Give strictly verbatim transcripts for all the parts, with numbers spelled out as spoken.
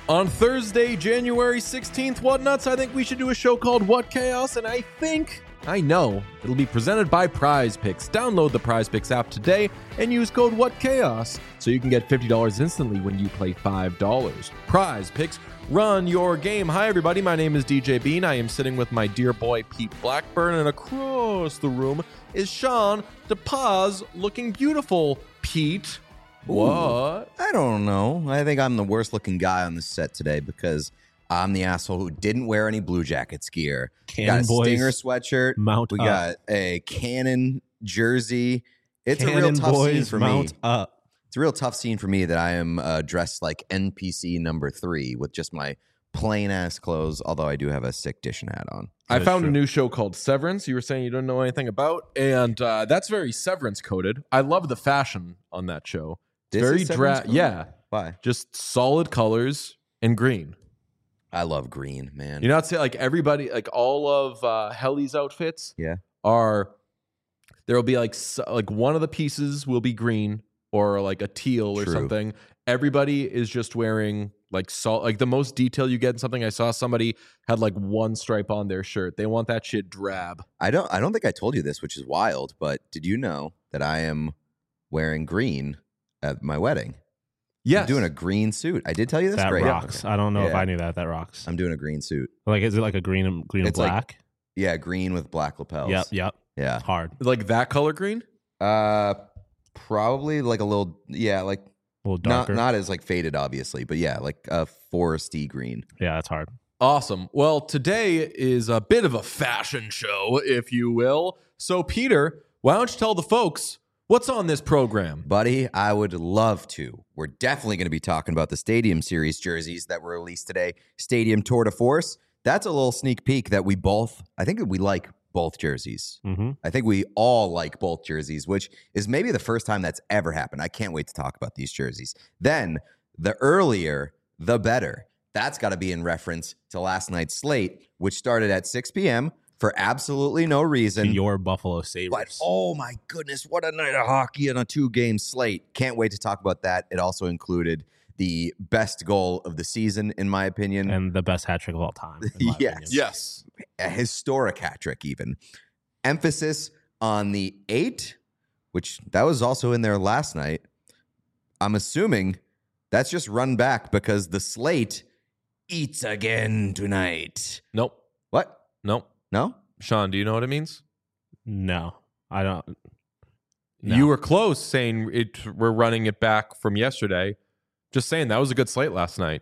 On Thursday, January sixteenth, What Nuts? I think we should do a show called What Chaos, and I think, I know, it'll be presented by Prize Picks. Download the Prize Picks app today and use code What Chaos so you can get fifty dollars instantly when you play five dollars. Prize Picks, run your game. Hi, everybody. My name is D J Bean. I am sitting with my dear boy, Pete Blackburn, and across the room is Sean DePaz, looking beautiful. Pete, what? I don't know. I think I'm the worst looking guy on the set today because I'm the asshole who didn't wear any Blue Jackets gear. Cannon got a boys, Stinger sweatshirt. Mount we up. got a Cannon jersey. It's Cannon a real tough boys, scene for mount me. up. It's a real tough scene for me that I am uh, dressed like N P C number three with just my plain ass clothes, although I do have a sick Dishon hat on. I That's found true. a new show called Severance. You were saying you don't know anything about, and uh, that's very Severance coded. I love the fashion on that show. It's This very is dra- Severance coded? yeah, Why? just solid colors and green. I love green, man. You know, I'd say like everybody, like all of uh, Helly's outfits, Yeah. are there will be like s- like one of the pieces will be green or like a teal or True. something. Everybody is just wearing like salt. Like the most detail you get in something. I saw somebody had like one stripe on their shirt. They want that shit drab. I don't I don't think I told you this, which is wild, but did you know that I am wearing green at my wedding? Yes, I'm doing a green suit. I did tell you this? That Great. rocks. I don't know if Yeah. I knew that. That rocks. I'm doing a green suit. Like, is it like a green and green and It's like- black? Yeah, green with black lapels. Yep, yep. Yeah. Hard. like that color green. Uh probably like a little yeah, like A little not darker. not as like faded obviously, but yeah, like a foresty green. yeah, that's hard. Awesome. Well, today is a bit of a fashion show, if you will. So, Peter, why don't you tell the folks what's on this program? Buddy, I would love to. We're definitely going to be talking about the Stadium Series jerseys that were released today. Stadium Tour de Force. That's a little sneak peek that we both, I think we like both jerseys. Mm-hmm. I think we all like both jerseys, which is maybe the first time that's ever happened. I can't wait to talk about these jerseys. Then, the earlier, the better. That's got to be in reference to last night's slate, which started at six p.m. for absolutely no reason. Your Buffalo Sabres. But oh my goodness, what a night of hockey and a two-game slate. Can't wait to talk about that. It also included the best goal of the season, in my opinion. and the best hat trick of all time. in my Yes. opinion. Yes. A historic hat trick, even. Emphasis on the eight, which that was also in there last night. I'm assuming that's just run back because the slate eats again tonight. Nope. What? Nope. No? Sean, do you know what it means? No, I don't. No. You were close saying it. We're running it back from yesterday. Just saying that was a good slate last night.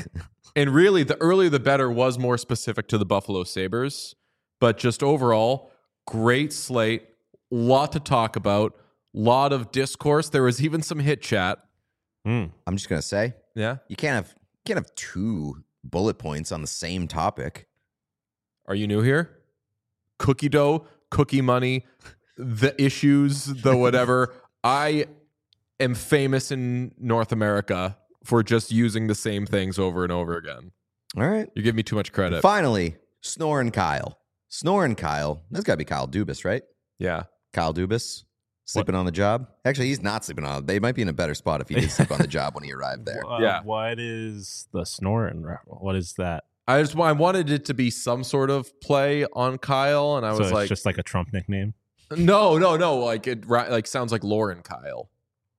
And really, the earlier the better was more specific to the Buffalo Sabres. But just overall, great slate. Lot to talk about. Lot of discourse. There was even some hit chat. Mm. I'm just going to say, Yeah. you can't have you can't have two bullet points on the same topic. Are you new here? Cookie dough, cookie money, the issues, the whatever. I am famous in North America for just using the same things over and over again. All right. You give me too much credit. Finally, Snorin Kyle. Snorin Kyle. That's got to be Kyle Dubas, right? Yeah. Kyle Dubas sleeping on the job. Actually, he's not sleeping on. They might be in a better spot if he did sleep on the job when he arrived there. Uh, Yeah. What is the snoring? re- What is that? I just I wanted it to be some sort of play on Kyle, and I so was it's like, just like a Trump nickname. no, no, no. Like it ra- like sounds like Lauren Kyle.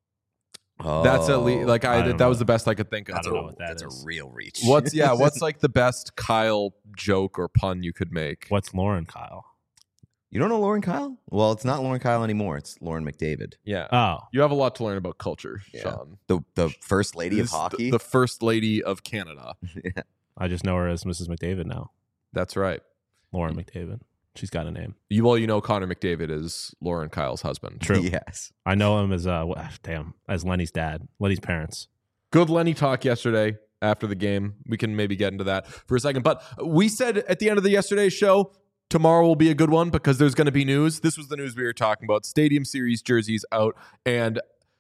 Oh, That's at least like I, I don't that know. was the best I could think of. I don't know what that that's is. a real reach. What's yeah? What's like the best Kyle joke or pun you could make? What's Lauren Kyle? You don't know Lauren Kyle? Well, it's not Lauren Kyle anymore. It's Lauren McDavid, Yeah. Oh, You have a lot to learn about culture, Yeah. Sean. the the first lady of This is hockey. The, the first lady of Canada. I just know her as Missus McDavid now. That's right. Lauren McDavid. She's got a name. You well, you know Connor McDavid is Lauren Kyle's husband. True. Yes. I know him as uh, wha- damn, as Lenny's dad, Lenny's parents. Good Lenny talk yesterday after the game. We can maybe get into that for a second. But we said at the end of the yesterday's show, tomorrow will be a good one because there's going to be news. This was the news we were talking about. Stadium Series jerseys out. And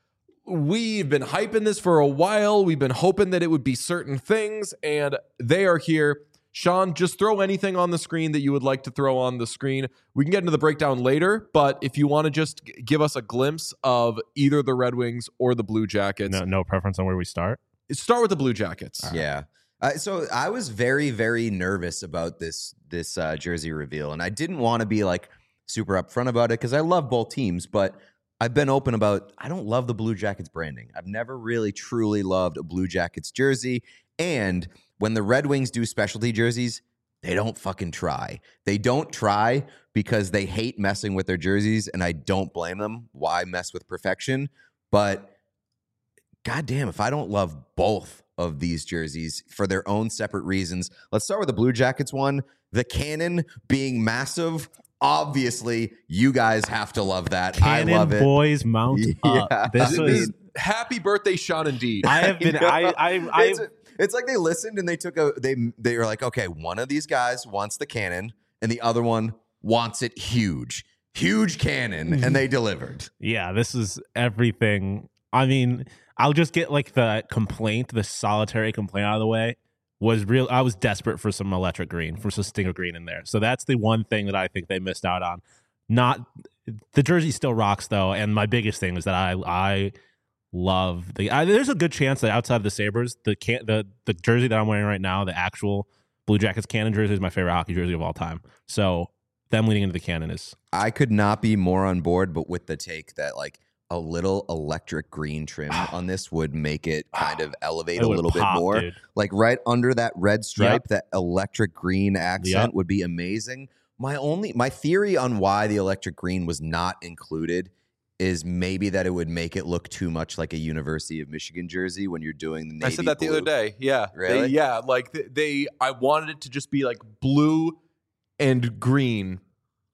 we've been hyping this for a while. We've been hoping that it would be certain things. And they are here. Sean, just throw anything on the screen that you would like to throw on the screen. We can get into the breakdown later, but if you want to just g- give us a glimpse of either the Red Wings or the Blue Jackets, No, no preference on where we start. start with the Blue Jackets. Yeah. Uh, so I was very, very nervous about this this uh, jersey reveal, and I didn't want to be like super upfront about it because I love both teams, but I've been open about I don't love the Blue Jackets branding. I've never really truly loved a Blue Jackets jersey, and when the Red Wings do specialty jerseys, they don't fucking try. They don't try because they hate messing with their jerseys, and I don't blame them. Why mess with perfection? But goddamn, if I don't love both of these jerseys for their own separate reasons. Let's start with the Blue Jackets one. The cannon being massive. Obviously, you guys have to love that. Cannon I love it. boys mount Yeah. up. This I was. mean, Happy birthday, Sean. Indeed. I have been. I. I. I it's, it's like they listened and they took a. They they were like, okay, one of these guys wants the cannon and the other one wants it huge, huge cannon, and they delivered. Yeah, this is everything. I mean, I'll just get like the complaint, the solitary complaint out of the way. Was real. I was desperate for some electric green, for some stinger green in there. So that's the one thing that I think they missed out on. Not the jersey still rocks though, and my biggest thing is that I I love the. I, there's a good chance that outside of the Sabres, the can the the jersey that I'm wearing right now, the actual Blue Jackets cannon jersey, is my favorite hockey jersey of all time. So them leading into the cannon is. I could not be more on board, but with the take that like a little electric green trim on this would make it kind of elevate It a would little pop, bit more. dude. Like right under that red stripe, that electric green accent Yep. would be amazing. My only my theory on why the electric green was not included is maybe that it would make it look too much like a University of Michigan jersey when you're doing the navy I said that the blue. other day. Yeah. Really? They, yeah. Like they, they, I wanted it to just be like blue and green.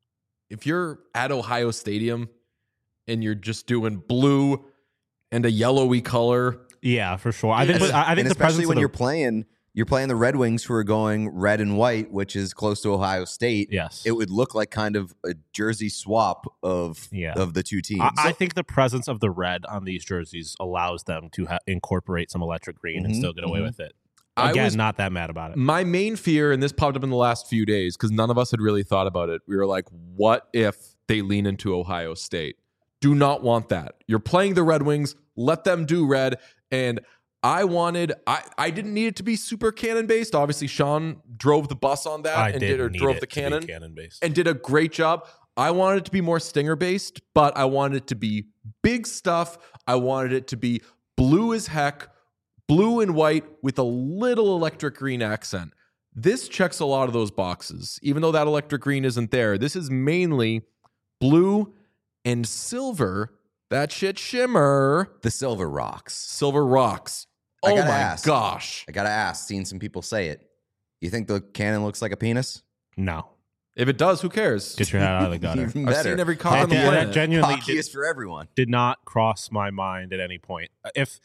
If you're at Ohio Stadium and you're just doing blue and a yellowy color. Yeah, for sure. I think. And, I think and the especially presence when of the, you're playing, you're playing the Red Wings who are going red and white, which is close to Ohio State. Yes, It would look like kind of a jersey swap of Yeah. of the two teams. I, I think the presence of the red on these jerseys allows them to ha- incorporate some electric green and Mhm, still get away mhm. with it. I Again, was- not that mad about it. My main fear, and this popped up in the last few days because none of us had really thought about it. We were like, what if they lean into Ohio State? Do not want that. You're playing the Red Wings. Let them do red. And I wanted, I, I didn't need it to be super cannon based. Obviously, Sean drove the bus on that I and did did or need drove it the to be cannon cannon based. and did a great job. I wanted it to be more stinger based, but I wanted it to be big stuff. I wanted it to be blue as heck, blue and white with a little electric green accent. This checks a lot of those boxes. Even though that electric green isn't there, this is mainly blue and silver. That shit shimmer. the silver rocks. Silver rocks. I Oh gotta my ask. gosh. I gotta ask. Seen some people say it. You think the cannon looks like a penis? No, If it does, who cares? get your head out of the gutter. Even I've better. seen every cock on the Yeah, that planet. genuinely Hockey did, is for everyone. did not cross my mind at any point. If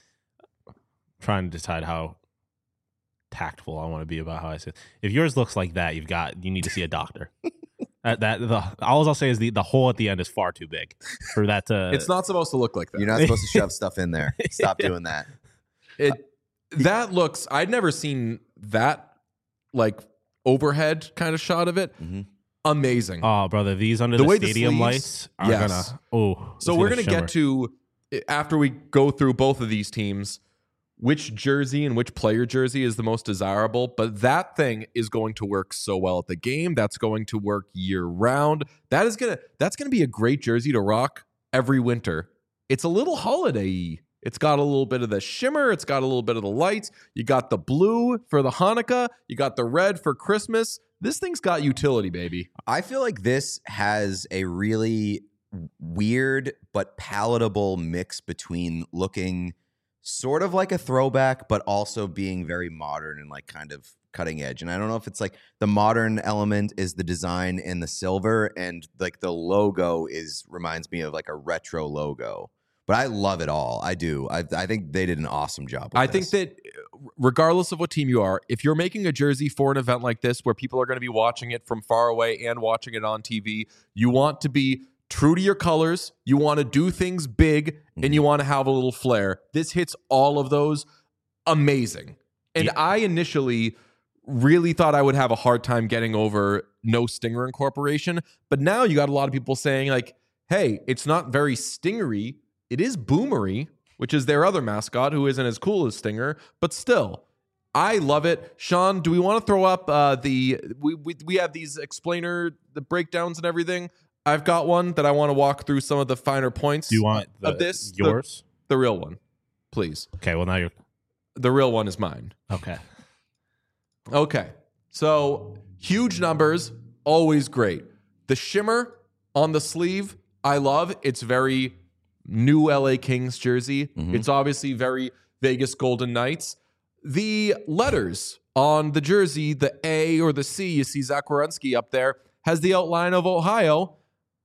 trying to decide how tactful I want to be about how I say it. If yours looks like that, you've got you need to see a doctor. that, that the all I'll say is the the hole at the end is far too big for that to. It's not supposed to look like that. You're not supposed to shove stuff in there. Stop doing that. It that looks. I'd never seen that like overhead kind of shot of it. Mhm. Amazing. Oh, brother, these under The the, way the stadium sleeves- lights are yes. gonna. Oh, so it's we're gonna shimmer. get to after we go through both of these teams, which jersey and which player jersey is the most desirable. But that thing is going to work so well at the game. That's going to work year round. That is gonna. That's gonna be a great jersey to rock every winter. It's a little holiday-y. It's got a little bit of the shimmer. It's got a little bit of the lights. You got the blue for the Hanukkah. You got the red for Christmas. This thing's got utility, baby. I feel like this has a really weird but palatable mix between looking sort of like a throwback, but also being very modern and like kind of cutting edge. And I don't know if it's like the modern element is the design in the silver, and like the logo is reminds me of like a retro logo. But I love it all. I do. I, I think they did an awesome job with I this. think that regardless of what team you are, if you're making a jersey for an event like this where people are going to be watching it from far away and watching it on T V, you want to be true to your colors. You want to do things big, and you want to have a little flair. This hits all of those. Amazing. And Yeah. I initially really thought I would have a hard time getting over no stinger incorporation. But now you got a lot of people saying like, hey, it's not very stingery. It is boomery, which is their other mascot who isn't as cool as Stinger, but still, I love it. Sean, do we want to throw up uh, the we, we we have these explainer the breakdowns and everything? I've got one that I want to walk through some of the finer points. Do you want the, of this? yours? The, the real one, please. Okay. Well, now you're The real one is mine. okay. Okay. So huge numbers, always great. The shimmer on the sleeve, I love. It's very new L A Kings jersey. Mhm. It's obviously very Vegas Golden Knights. The letters on the jersey, the A or the C, you see Zach Werenski up there, has the outline of Ohio.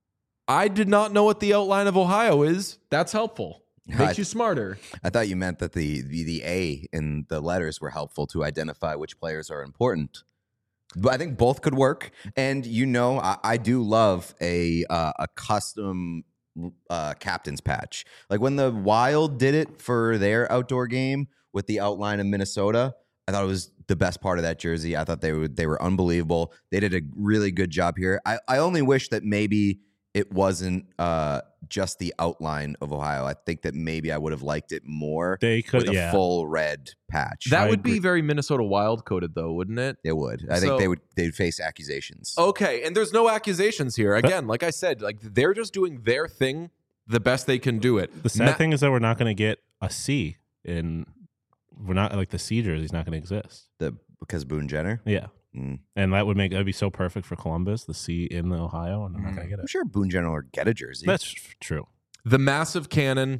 I did not know what the outline of Ohio is. That's helpful. Makes I- you smarter. I thought you meant that the, the the A in the letters were helpful to identify which players are important. But I think both could work. And you know, I, I do love a uh, a custom uh, captain's patch. Like when the Wild did it for their outdoor game with the outline of Minnesota, I thought it was the best part of that jersey. I thought they were they were unbelievable. They did a really good job here. I, I only wish that maybe it wasn't uh, just the outline of Ohio. I think that maybe I would have liked it more They could. with a Yeah. full red patch. That I would agree. be very Minnesota Wild coded, though, wouldn't it? It would. I think So- they would they'd face accusations. Okay, and there's no accusations here. Again, like I said, like they're just doing their thing the best they can do it. The sad Ma- thing is that we're not going to get a C in. We're not like the C jersey's not going to exist. The because Boone Jenner. Yeah. Mm. And that would make that'd be so perfect for Columbus, the C in Ohio, and they're not going to get I'm it. sure Boone Jenner will get a jersey. That's f- true. The massive cannon,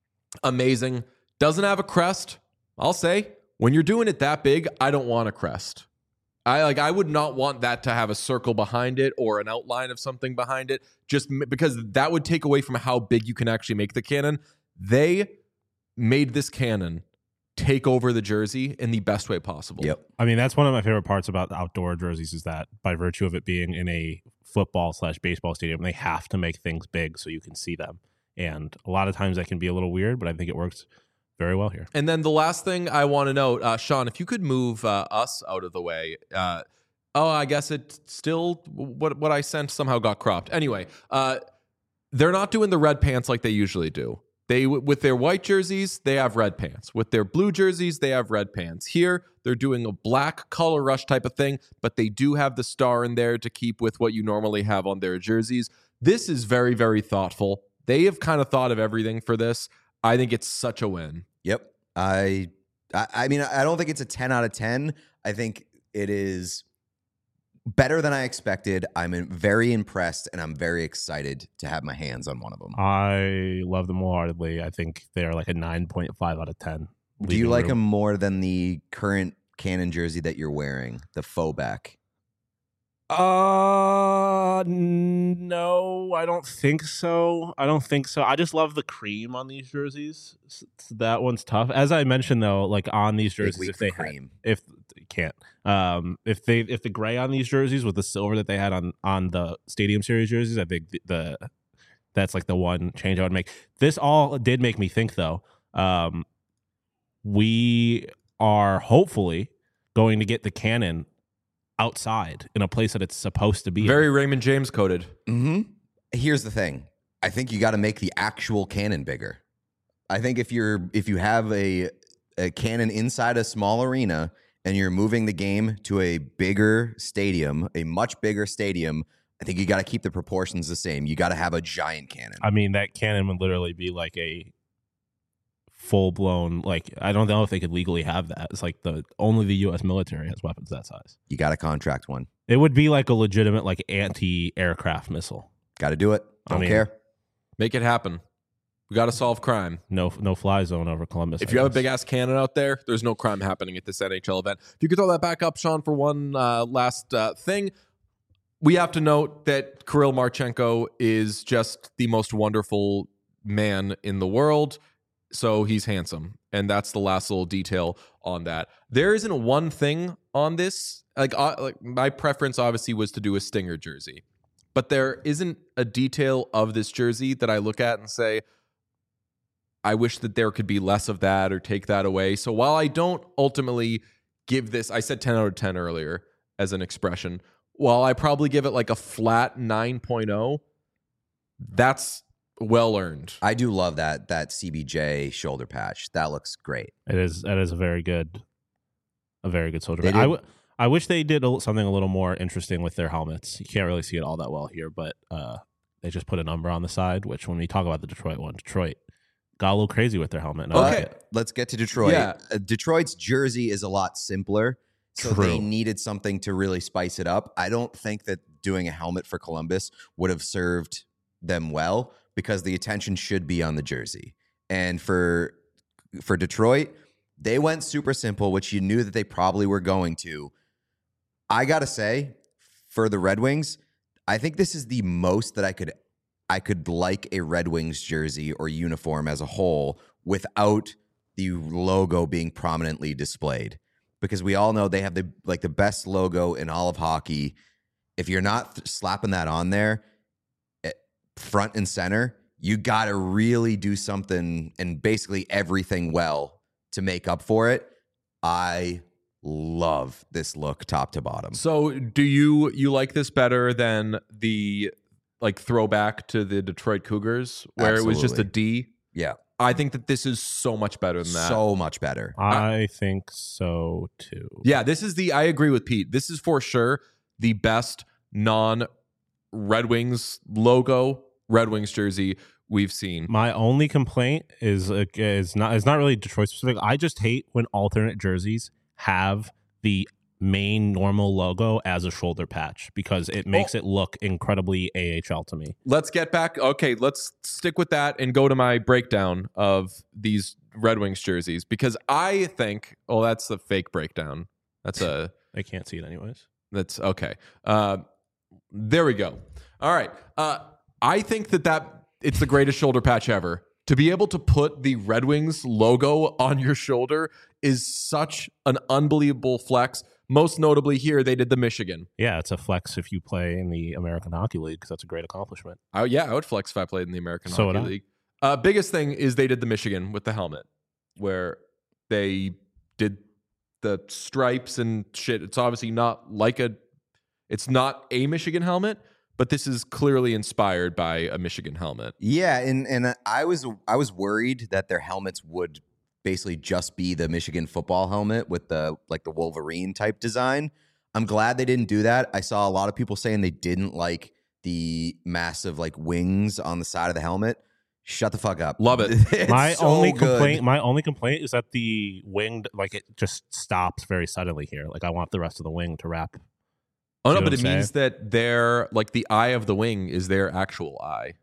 amazing. Doesn't have a crest. I'll say, when you're doing it that big, I don't want a crest. I like I would not want that to have a circle behind it or an outline of something behind it, just m- because that would take away from how big you can actually make the cannon. They made this cannon take over the jersey in the best way possible. Yep. I mean, that's one of my favorite parts about the outdoor jerseys is that by virtue of it being in a football slash baseball stadium, they have to make things big so you can see them. And a lot of times that can be a little weird, but I think it works very well here. And then the last thing I want to note, uh, Sean, if you could move uh, us out of the way. Uh, oh, I guess it still what what I sent somehow got cropped. Anyway, uh, they're not doing the red pants like they usually do. They with their white jerseys, they have red pants. With their blue jerseys, they have red pants. Here, they're doing a black color rush type of thing, but they do have the star in there to keep with what you normally have on their jerseys. This is very, very thoughtful. They have kind of thought of everything for this. I think it's such a win. Yep. I, I I mean, I don't think it's a ten out of ten. I think it is better than I expected. I'm in- very impressed, and I'm very excited to have my hands on one of them. I love them wholeheartedly. I think they're like a nine point five out of ten. Do you leaving like room. them more than the current Canon jersey that you're wearing, the faux back? Uh, n- no, I don't think so. I don't think so. I just love the cream on these jerseys. S- s- That one's tough. As I mentioned, though, like on these Big jerseys, week if for they had, cream. if you can't, um, if they if the gray on these jerseys with the silver that they had on on the Stadium Series jerseys, I think the, the that's like the one change I would make. This all did make me think, though. Um, we are hopefully going to get the cannon outside in a place that it's supposed to be. Very Raymond James coded. Mm-hmm. Here's the thing. I think you got to make the actual cannon bigger. I think if you're if you have a a cannon inside a small arena and you're moving the game to a bigger stadium, a much bigger stadium, I think you got to keep the proportions the same. You got to have a giant cannon. I mean, that cannon would literally be like a full blown, like, I don't know if they could legally have that. It's like the only the U S military has weapons that size. You got to contract one. It would be like a legitimate, like, anti aircraft missile. Got to do it. I Don't mean- care. Make it happen. We got to solve crime. No, no fly zone over Columbus. If I you have a guess. big ass cannon out there, there's no crime happening at this N H L event. If you could throw that back up, Sean, for one uh, last uh, thing. We have to note that Kirill Marchenko is just the most wonderful man in the world. So he's handsome. And that's the last little detail on that. There isn't one thing on this. Like, uh, like my preference obviously was to do a Stinger jersey. But there isn't a detail of this jersey that I look at and say, I wish that there could be less of that or take that away. So while I don't ultimately give this, I said ten out of ten earlier as an expression, while I probably give it like a flat nine point oh, that's well earned. I do love that that C B J shoulder patch. That looks great. It is, that is a very good a very good shoulder They pad. I, did- w- I wish they did a, something a little more interesting with their helmets. You can't really see it all that well here, but uh, they just put a number on the side, which when we talk about the Detroit one, Detroit got a little crazy with their helmet. And I like Okay. it. Let's get to Detroit. Yeah. Uh, Detroit's jersey is a lot simpler, so True. they needed something to really spice it up. I don't think that doing a helmet for Columbus would have served them well because the attention should be on the jersey. And for for Detroit, they went super simple, which you knew that they probably were going to. I gotta say, for the Red Wings, I think this is the most that I could I could like a Red Wings jersey or uniform as a whole without the logo being prominently displayed. Because we all know they have the like the best logo in all of hockey. If you're not th- slapping that on there, eh, front and center, you got to really do something and basically everything well to make up for it. I love this look top to bottom. So do you you like this better than the like throwback to the Detroit Cougars where it was just a Absolutely. D? Yeah, I think that this is so much better than that. so much better. I think so too. Yeah, this is the I agree with Pete. This is for sure the best non Red Wings logo Red Wings jersey we've seen. My only complaint is uh, is not is not really Detroit specific. I just hate when alternate jerseys have the main normal logo as a shoulder patch because it makes it look incredibly A H L to me. Let's get back. Okay, let's stick with that and go to my breakdown of these Red Wings jerseys because I think, oh, that's the fake breakdown. That's a I can't see it anyways. That's okay. Uh, there we go. All right. Uh, I think that that it's the greatest shoulder patch ever. To be able to put the Red Wings logo on your shoulder is such an unbelievable flex. Most notably here, they did the Michigan. Yeah, it's a flex if you play in the American Hockey League because that's a great accomplishment. I, yeah, I would flex if I played in the American So would Hockey I. League. Uh, biggest thing is they did the Michigan with the helmet, where they did the stripes and shit. It's obviously not like a, it's not a Michigan helmet, but this is clearly inspired by a Michigan helmet. Yeah, and and I was I was worried that their helmets would basically just be the Michigan football helmet with the like the Wolverine type design. I'm glad they didn't do that. I saw a lot of people saying they didn't like the massive like wings on the side of the helmet. Shut the fuck up. Love it. It's my so only good. complaint, my only complaint is that the winged like it just stops very suddenly here. Like I want the rest of the wing to wrap. Oh See no, what but I'm it means that their like the eye of the wing is their actual eye.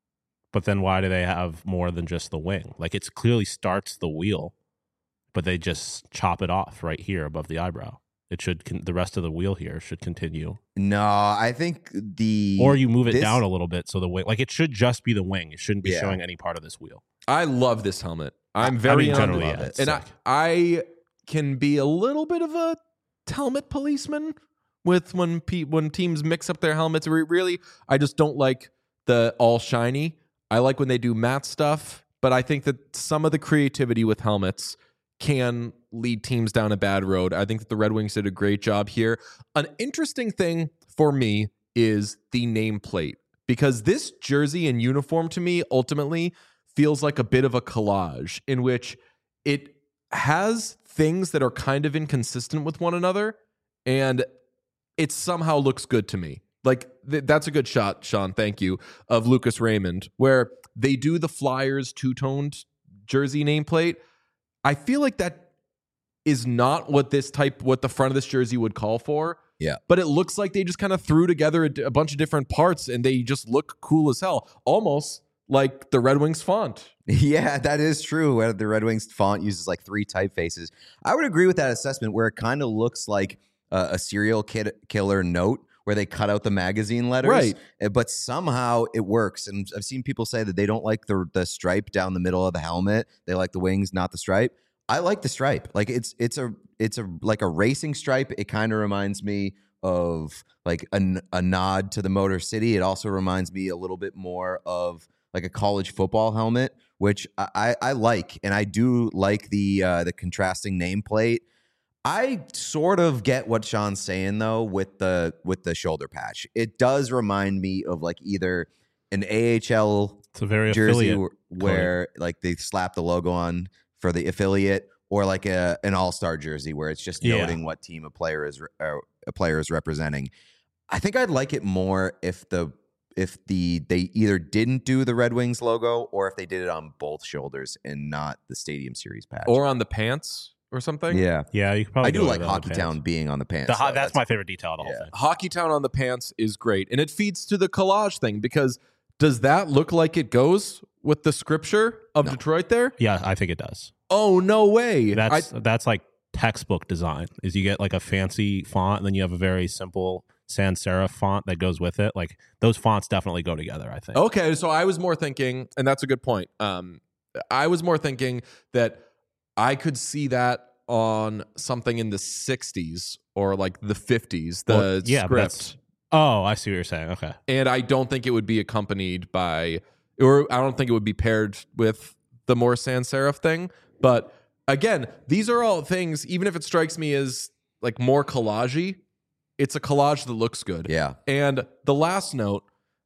But then why do they have more than just the wing? Like it clearly starts the wheel, but they just chop it off right here above the eyebrow. It should con- the rest of the wheel here should continue, No, I think the or you move it this- down a little bit so the wing, like it should just be the wing. It shouldn't be Yeah. showing any part of this wheel. I love this helmet. I'm I very mean, on- generally, love yeah, it. it's and I, sick. I can be a little bit of a helmet policeman with when pe- when teams mix up their helmets. Re- Really, I just don't like the all shiny. I like when they do matte stuff, but I think that some of the creativity with helmets can lead teams down a bad road. I think that the Red Wings did a great job here. An interesting thing for me is the nameplate because this jersey and uniform to me ultimately feels like a bit of a collage in which it has things that are kind of inconsistent with one another and it somehow looks good to me. Like th- that's a good shot, Sean, thank you, of Lucas Raymond, where they do the Flyers two-toned jersey nameplate. I feel like that is not what this type, what the front of this jersey would call for. Yeah. But it looks like they just kind of threw together a, a bunch of different parts and they just look cool as hell. Almost like the Red Wings font. Yeah, that is true. Where the Red Wings font uses like three typefaces. I would agree with that assessment where it kind of looks like uh, a serial kid killer note where they cut out the magazine letters. Right. Uh, But somehow it works. And I've seen people say that they don't like the the stripe down the middle of the helmet. They like the wings, not the stripe. I like the stripe. Like it's it's a it's a like a racing stripe. It kind of reminds me of like a, a nod to the Motor City. It also reminds me a little bit more of like a college football helmet, which I, I, I like, and I do like the uh, the contrasting nameplate. I sort of get what Sean's saying though with the with the shoulder patch. It does remind me of like either an A H L It's a very jersey affiliate. where, where like they slap the logo on for the affiliate, or like a an all-star jersey where it's just Yeah. noting what team a player is uh, a player is representing. I think I'd like it more if the if the they either didn't do the Red Wings logo or if they did it on both shoulders and not the Stadium Series patch. Or on the pants or something. yeah, Yeah, you could probably I do go like with it on the Hockey pants. Town being on the pants. The ho- though. that's, my favorite detail of the whole yeah. thing. Hockey Town on the pants is great. And it feeds to the collage thing because does that look like it goes with the scripture of No. Detroit there? Yeah, I think it does. Oh, no way. That's I, that's like textbook design. Is you get like a fancy font and then you have a very simple sans serif font that goes with it. Like those fonts definitely go together, I think. okay, so I was more thinking, and that's a good point. Um, I was more thinking that I could see that on something in the sixties or like the fifties, the Well, yeah, but that's- script. Oh, I see what you're saying. Okay. And I don't think it would be accompanied by, or I don't think it would be paired with the more sans serif thing. But again, these are all things, even if it strikes me as like more collage-y, it's a collage that looks good. Yeah. And the last note,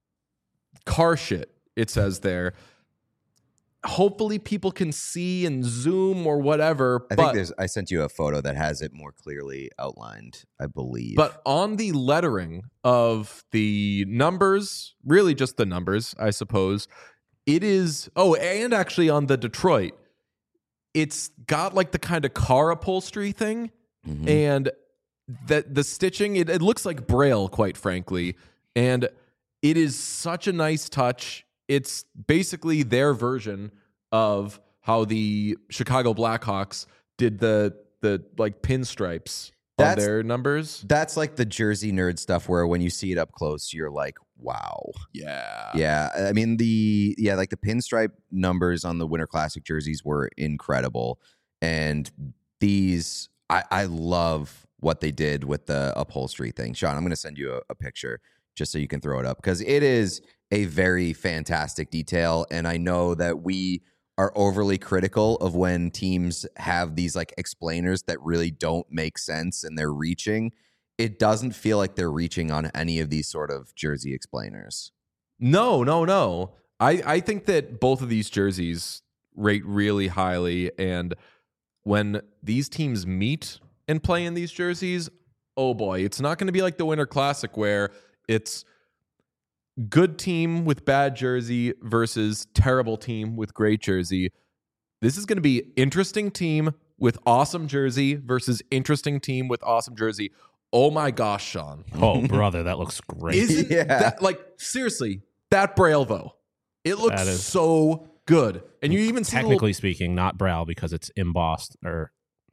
car shit, it says there. Hopefully people can see and zoom or whatever. I but, think there's. I sent you a photo that has it more clearly outlined. I believe. But on the lettering of the numbers, really just the numbers, I suppose, it is. Oh, and actually on the Detroit, it's got like the kind of car upholstery thing, Mhm. and that the stitching. It, it looks like Braille, quite frankly, and it is such a nice touch. It's basically their version of how the Chicago Blackhawks did the the like pinstripes on That's- their numbers. That's like the Jersey nerd stuff where when you see it up close, you're like, wow. Yeah. Yeah. I mean, the, yeah, like the pinstripe numbers on the Winter Classic jerseys were incredible. And these, I, I love what they did with the upholstery thing. Sean, I'm going to send you a, a picture just so you can throw it up because it is a very fantastic detail. And I know that we are overly critical of when teams have these like explainers that really don't make sense and they're reaching. It doesn't feel like they're reaching on any of these sort of jersey explainers. No, no, no. I, I think that both of these jerseys rate really highly. And when these teams meet and play in these jerseys, oh boy, it's not going to be like the Winter Classic where it's good team with bad jersey versus terrible team with great jersey. This is going to be interesting team with awesome jersey versus interesting team with awesome jersey. Oh my gosh, Sean. Oh, brother, that looks great. Isn't Yeah. that like seriously, that Braille though? It looks That is- so good. And you even see the Technically speaking, not Braille because it's embossed or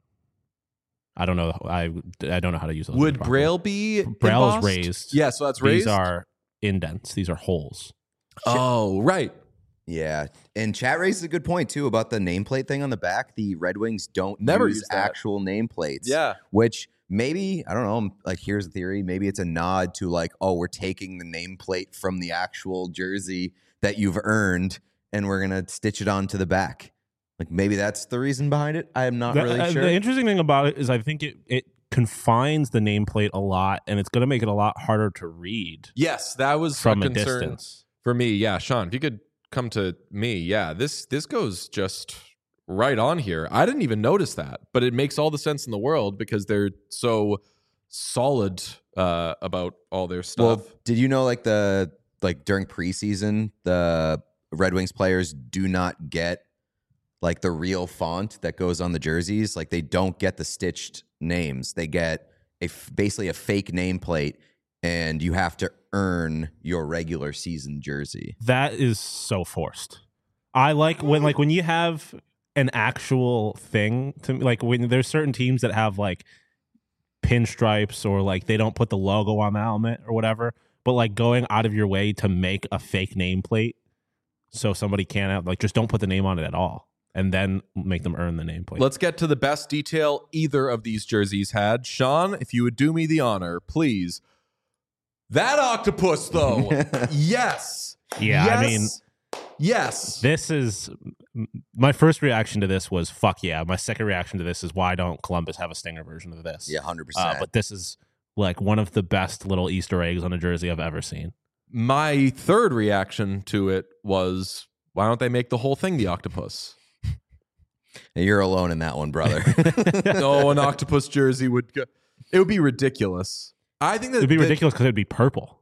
I don't know. I I don't know how to use those. little, would properly. Braille be Braille is embossed? raised. Yeah, so that's raised. These are indents. These are holes. Oh, right. Yeah. And chat raises a good point too about the nameplate thing on the back. The Red Wings don't Never use use that. actual nameplates. Yeah. Which maybe, I don't know, like here's a theory. Maybe it's a nod to like, oh, we're taking the nameplate from the actual jersey that you've earned and we're going to stitch it onto the back. Like maybe that's the reason behind it. I am not The, really uh, sure. the interesting thing about it is I think it, it confines the nameplate a lot and it's going to make it a lot harder to read Yes, that was from a a concern distance. for me. Yeah, Sean, if you could come to me. Yeah, this this goes just right on here. I didn't even notice that, but it makes all the sense in the world because they're so solid uh, about all their stuff. Well, did you know like the like during preseason, the Red Wings players do not get like the real font that goes on the jerseys. Like they don't get the stitched names. They get a f- basically a fake nameplate, and you have to earn your regular season jersey. That is so forced. I like when like when you have an actual thing to like when there's certain teams that have like pinstripes or like they don't put the logo on the helmet or whatever, but like going out of your way to make a fake nameplate so somebody can't have like just don't put the name on it at all and then make them earn the nameplate. Let's get to the best detail either of these jerseys had. Sean, if you would do me the honor, please. That octopus, though. Yes. Yeah, I mean, Yes. Yes. This is m- my first reaction to this was fuck yeah. My second reaction to this is why don't Columbus have a Stinger version of this? Yeah, one hundred Uh, percent. but this is like one of the best little Easter eggs on a jersey I've ever seen. My third reaction to it was, why don't they make the whole thing the octopus? And you're alone in that one, brother. No, an octopus jersey would go. It would be ridiculous. I think that It'd be that- ridiculous because it'd be purple.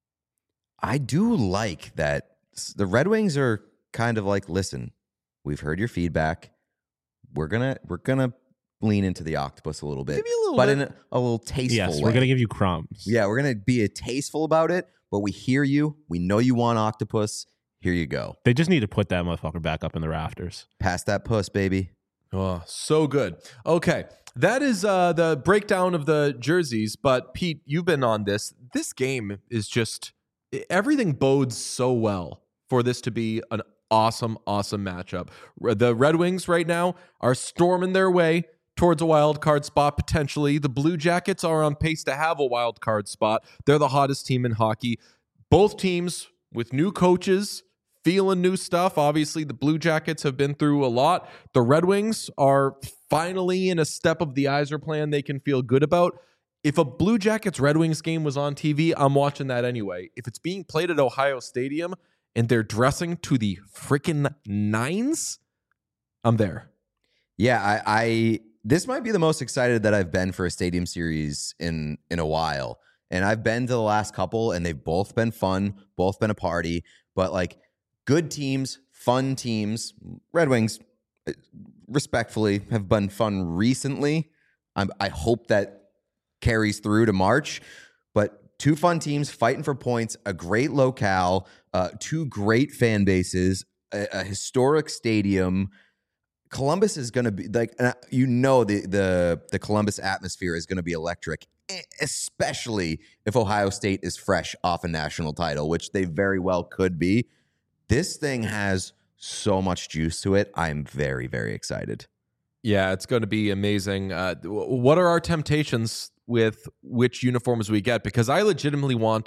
I do like that the Red Wings are kind of like, listen, we've heard your feedback. We're gonna we're gonna lean into the octopus a little bit, Maybe a little but bit. in a, a little tasteful Yes, way. we're gonna give you crumbs. Yeah, we're gonna be a tasteful about it, but we hear you. We know you want octopus. Here you go. They just need to put that motherfucker back up in the rafters. Pass that puss, baby. Oh, so good. Okay. That is uh, the breakdown of the jerseys. But Pete, you've been on this. This game is just everything bodes so well for this to be an awesome, awesome matchup. The Red Wings right now are storming their way towards a wild card spot potentially. The Blue Jackets are on pace to have a wild card spot. They're the hottest team in hockey. Both teams with new coaches, feeling new stuff. Obviously, the Blue Jackets have been through a lot. The Red Wings are finally in a step of the Yzer plan they can feel good about. If a Blue Jackets Red Wings game was on T V, I'm watching that anyway. If it's being played at Ohio Stadium and they're dressing to the freaking nines, I'm there. Yeah, I, I this might be the most excited that I've been for a stadium series in in a while. And I've been to the last couple, and they've both been fun, both been a party. But like good teams, fun teams. Red Wings, respectfully, have been fun recently. I'm, I hope that carries through to March. But two fun teams fighting for points, a great locale, uh, two great fan bases, a, a historic stadium. Columbus is going to be like, you know, the the the Columbus atmosphere is going to be electric, especially if Ohio State is fresh off a national title, which they very well could be. This thing has so much juice to it. I'm very, very excited. Yeah, it's going to be amazing. Uh, what are our temptations with which uniforms we get? Because I legitimately want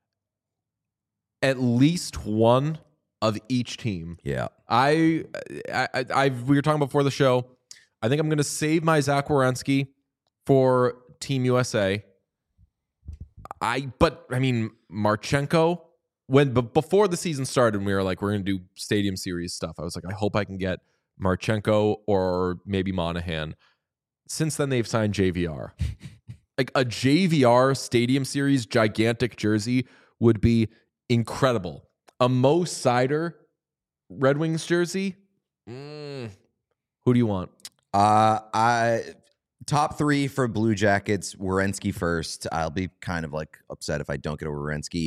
at least one of each team. Yeah. I, I, I, I we were talking before the show. I think I'm going to save my Zach Werenski for Team U S A. I, but I mean, Marchenko, when but before the season started, we were like, we're going to do stadium series stuff. I was like, I hope I can get Marchenko or maybe Monahan. Since then, they've signed J V R. Like a J V R stadium series gigantic jersey would be incredible. A Mo Seider Red Wings jersey. Mm. Who do you want? Uh, I top three for Blue Jackets. Werenski first. I'll be kind of like upset if I don't get a Werenski,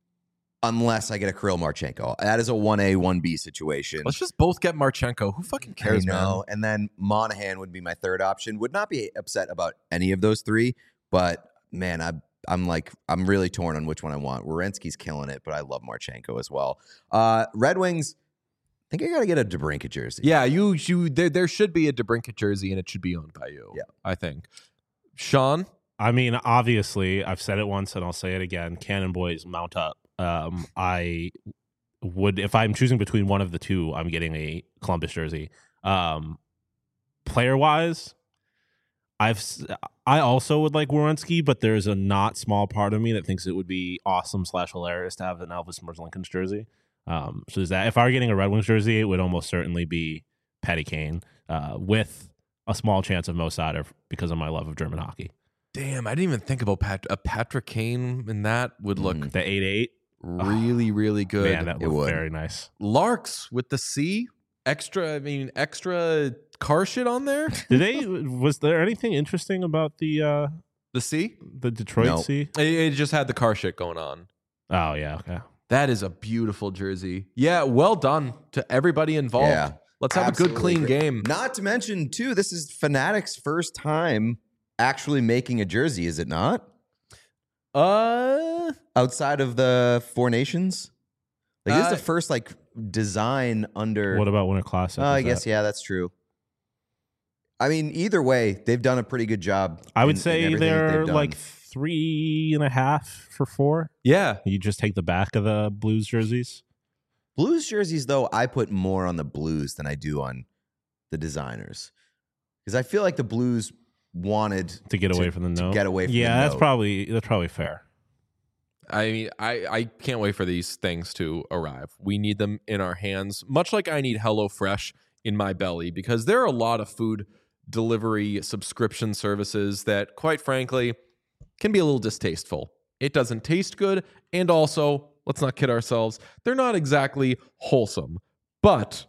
unless I get a Kirill Marchenko. That is a one A, one B situation. Let's just both get Marchenko. Who fucking cares, I know. man? And then Monahan would be my third option. Would not be upset about any of those three, but man, I, I'm like, I'm really torn on which one I want. Werenski's killing it, but I love Marchenko as well. Uh, Red Wings, I think I got to get a DeBrincat jersey. Yeah, you, you. There, there should be a DeBrincat jersey, and it should be owned by you. Yeah. I think. Sean? I mean, obviously, I've said it once and I'll say it again. Cannon Boys mount up. Um, I would, if I'm choosing between one of the two, I'm getting a Columbus jersey. Um, player wise, I've I also would like Werenski, but there's a not small part of me that thinks it would be awesome slash hilarious to have an Elvis Merzlikins jersey. Um, so is that if I were getting a Red Wings jersey, it would almost certainly be Patty Kane, uh, with a small chance of Mo Seider because of my love of German hockey. Damn, I didn't even think about Pat, a Patrick Kane in that would look Mm. The eight eight, really, really good. man, that It would would. very nice. Larks with the C, extra. I mean, extra car shit on there. Did they? Was there anything interesting about the uh, The C. the Detroit No. Sea? It, it just had the car shit going on. Oh yeah, okay. That is a beautiful jersey. Yeah, well done to everybody involved. Yeah. Let's have a Absolutely good, clean great. game. Not to mention, too, this is Fanatic's first time actually making a jersey, is it not? Uh, Outside of the Four Nations? Like, this is Uh, the first, like, design under... What about Winter Classic? Oh, I Is guess, that- yeah, that's true. I mean, either way, they've done a pretty good job. I would in- in say everything that they're they've done. like three and a half for four. yeah. You just take the back of the Blues jerseys. Blues jerseys, though, I put more on the Blues than I do on the designers. Because I feel like the Blues wanted To get away To- from the to note. get away from yeah, the that's note. probably that's probably fair. I mean, I, I can't wait for these things to arrive. We need them in our hands, much like I need HelloFresh in my belly because there are a lot of food delivery subscription services that, quite frankly, can be a little distasteful. It doesn't taste good, and also, let's not kid ourselves, they're not exactly wholesome. But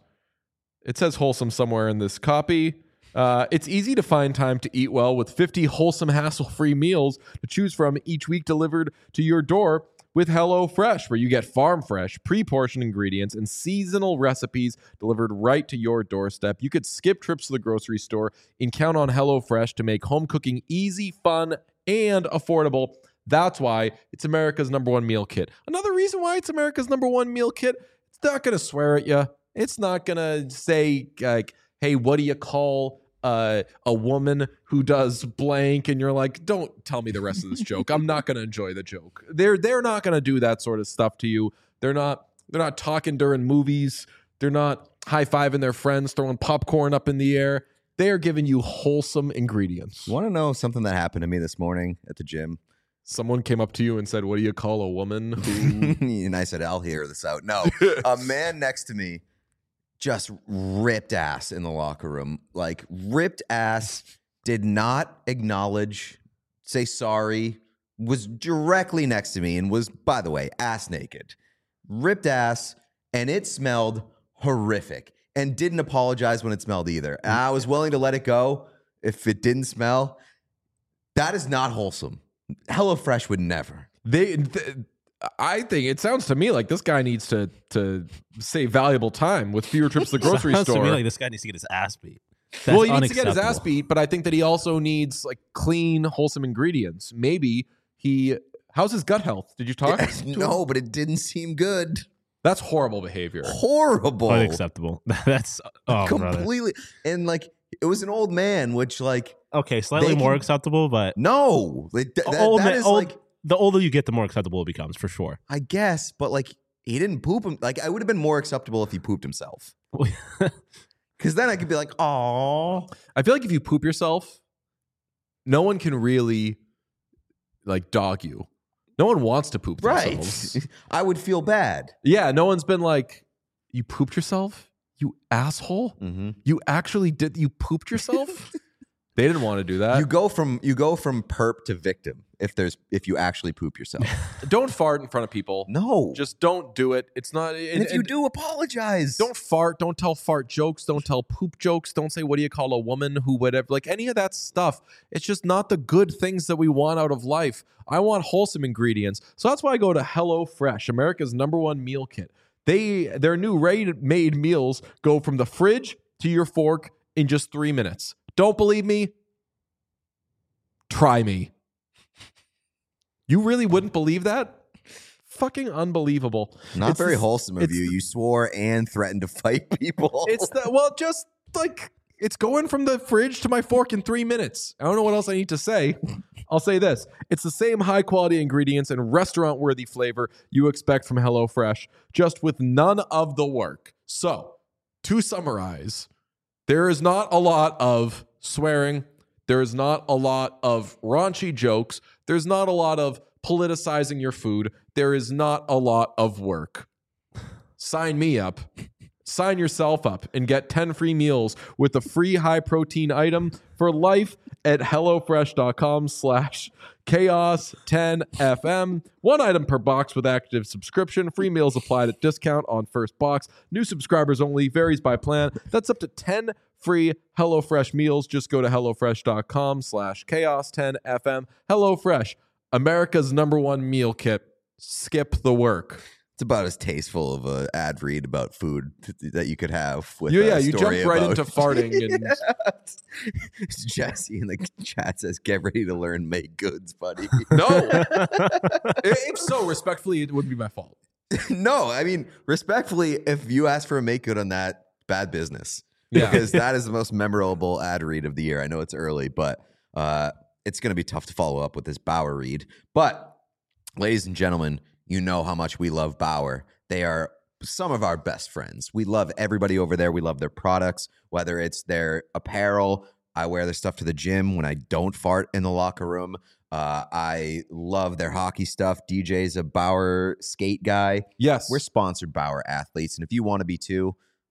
it says wholesome somewhere in this copy. Uh, it's easy to find time to eat well with fifty wholesome, hassle-free meals to choose from each week delivered to your door with HelloFresh, where you get farm-fresh, pre-portioned ingredients and seasonal recipes delivered right to your doorstep. You could skip trips to the grocery store and count on HelloFresh to make home cooking easy, fun, and affordable. That's why it's America's number one meal kit. Another reason why it's America's number one meal kit, it's not going to swear at you. It's not going to say, like, hey, what do you call uh, a woman who does blank? And you're like, don't tell me the rest of this joke. I'm not going to enjoy the joke. They're they're not going to do that sort of stuff to you. They're not they're not talking during movies. They're not high-fiving their friends, throwing popcorn up in the air. They are giving you wholesome ingredients. Want to know something that happened to me this morning at the gym? Someone came up to you and said, what do you call a woman who... And I said, I'll hear this out. No, a man next to me just ripped ass in the locker room. Like, ripped ass, did not acknowledge, say sorry, was directly next to me and was, by the way, ass naked. Ripped ass, and it smelled horrific. And didn't apologize when it smelled either. And I was willing to let it go if it didn't smell. That is not wholesome. HelloFresh would never. They... Th- I think it sounds to me like this guy needs to to save valuable time with fewer trips to the grocery Sounds store. to me like this guy needs to get his ass beat. That's well, he needs to get his ass unacceptable. beat, but I think that he also needs like clean, wholesome ingredients. Maybe he. How's his gut health? Did you talk? to No, him? but it didn't seem good. That's horrible behavior. Horrible. Unacceptable. That's oh, brother. Completely. And like, it was an old man, which like, Okay, slightly They more can- acceptable, but no. Like, th- that, old, that man- is old- like, the older you get, the more acceptable it becomes, for sure. I guess, but like, he didn't poop him. Like, I would have been more acceptable if he pooped himself. Because then I could be like, oh. I feel like if you poop yourself, no one can really like dog you. No one wants to poop themselves. Right. I would feel bad. Yeah, no one's been like, you pooped yourself? You asshole? Mm-hmm. You actually did? You pooped yourself? They didn't want to do that. You go from you go from perp to victim if there's if you actually poop yourself. Don't fart in front of people. No. Just don't do it. It's not. and And, if you and do, apologize. don't fart. Don't tell fart jokes. Don't tell poop jokes. Don't say, what do you call a woman who, whatever. Like any of that stuff. It's just not the good things that we want out of life. I want wholesome ingredients. So that's why I go to HelloFresh, America's number one meal kit. They Their new ready-made meals go from the fridge to your fork in just three minutes. Don't believe me? Try me. You really wouldn't believe that? Fucking unbelievable. Not It's very the- wholesome of it's you. the- You swore and threatened to fight people. It's the well, just like it's going from the fridge to my fork in three minutes. I don't know what else I need to say. I'll say this: it's the same high quality ingredients and restaurant worthy flavor you expect from HelloFresh, just with none of the work. So, to summarize, there is not a lot of swearing. There is not a lot of raunchy jokes. There's not a lot of politicizing your food. There is not a lot of work. Sign me up. Sign yourself up and get ten free meals with a free high protein item for life at HelloFresh.com slash chaos 10 FM. One item per box with active subscription. Free meals applied at discount on first box. New subscribers only. Varies by plan. That's up to ten free HelloFresh meals. Just go to HelloFresh.com slash chaos 10 FM. HelloFresh, America's number one meal kit. Skip the work. It's about as tasteful of a ad read about food th- that you could have. With You- a yeah, you story jumped right about- into farting and- Jesse in the chat says, "Get ready to learn make goods, buddy." No. If so, respectfully, it would be my fault. No, I mean respectfully, if you ask for a make good on that, bad business. Yeah. Because that is the most memorable ad read of the year. I know it's early, but uh, it's going to be tough to follow up with this Bauer read. But, ladies and gentlemen, you know how much we love Bauer. They are some of our best friends. We love everybody over there. We love their products, whether it's their apparel. I wear their stuff to the gym when I don't fart in the locker room. Uh, I love their hockey stuff. D J's a Bauer skate guy. Yes. We're sponsored Bauer athletes, and if you want to be too,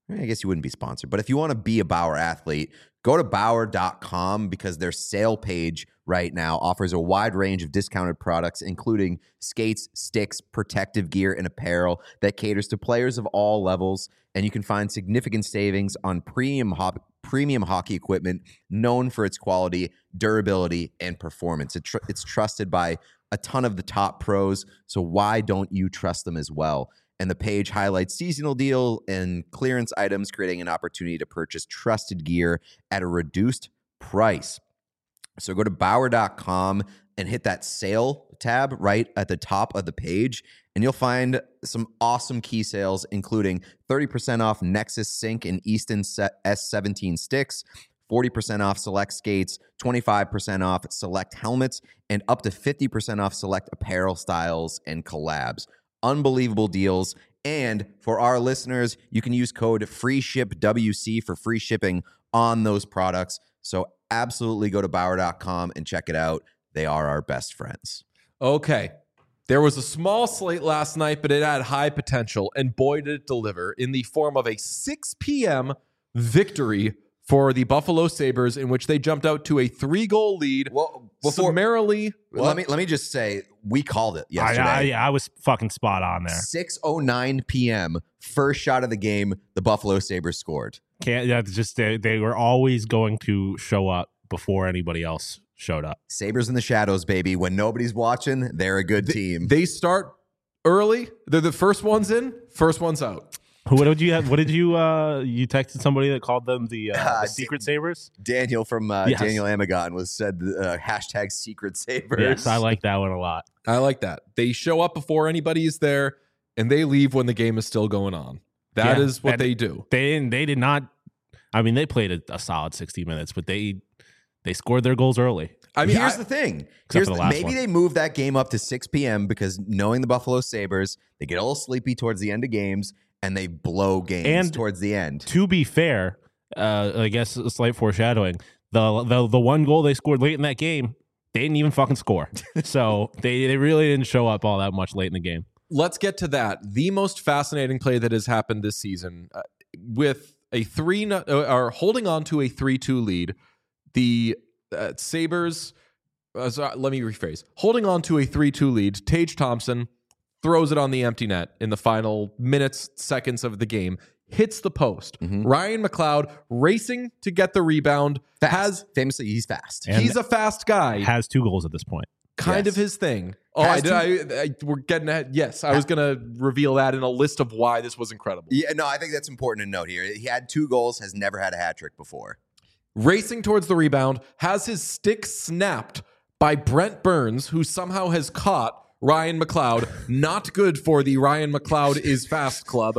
I guess you wouldn't be sponsored, but if you want to be a Bauer athlete, go to Bauer dot com because their sale page right now offers a wide range of discounted products, including skates, sticks, protective gear, and apparel that caters to players of all levels. And you can find significant savings on premium hop- premium hockey equipment known for its quality, durability, and performance. It tr- it's trusted by a ton of the top pros, so why don't you trust them as well? And the page highlights seasonal deal and clearance items, creating an opportunity to purchase trusted gear at a reduced price. So go to Bauer dot com and hit that sale tab right at the top of the page, and you'll find some awesome key sales, including thirty percent off Nexus Sync and Easton S seventeen sticks, forty percent off select skates, twenty-five percent off select helmets, and up to fifty percent off select apparel styles and collabs. Unbelievable deals. And for our listeners, you can use code FREESHIPWC for free shipping on those products. So absolutely go to Bauer dot com and check it out. They are our best friends. Okay. There was a small slate last night, but it had high potential, and boy, did it deliver in the form of a six p.m. victory for the Buffalo Sabres, in which they jumped out to a three-goal lead. Well, before, summarily. Well, let me let me just say, we called it yesterday. I, I, yeah, I was fucking spot on there. six oh nine p.m., first shot of the game, the Buffalo Sabres scored. Can't that's just they, they were always going to show up before anybody else showed up. Sabres in the shadows, baby. When nobody's watching, they're a good they, team. They start early. They're the first ones in, first ones out. What did you have? What did you uh you texted somebody that called them the, uh, Uh, the Secret Sabres? Daniel from uh, Yes. Daniel Amagon was said uh, hashtag Secret Sabres. Yes, I like that one a lot. I like that. They show up before anybody is there, and they leave when the game is still going on. That Yeah, is what and they do. They didn't. They did not. I mean, they played a, a solid sixty minutes, but they they scored their goals early. I mean, here's I- the thing. Except Here's for the the- last maybe one. they moved that game up to six p.m. because knowing the Buffalo Sabres, they get a little sleepy towards the end of games and they blow games And towards the end. To be fair, uh, I guess a slight foreshadowing. The, the the one goal they scored late in that game, they didn't even fucking score. So they they really didn't show up all that much late in the game. Let's get to that. The most fascinating play that has happened this season, uh, with a three no- uh, or holding on to a three two lead, the uh, Sabres. Uh, so, let me rephrase. Holding on to a three two lead, Tage Thompson throws it on the empty net in the final minutes, seconds of the game, hits the post. Mhm. Ryan McLeod racing to get the rebound. Fast. Has Famously, he's fast. And he's a fast guy. Has two goals at this point. kind Yes. of his thing. Oh, Has I did. I, I, we're getting ahead. Yes, I was going to reveal that in a list of why this was incredible. Yeah, no, I think that's important to note here. He had two goals, has never had a hat trick before. Racing towards the rebound, has his stick snapped by Brent Burns, who somehow has caught Ryan McLeod. Not good for the Ryan McLeod is fast club.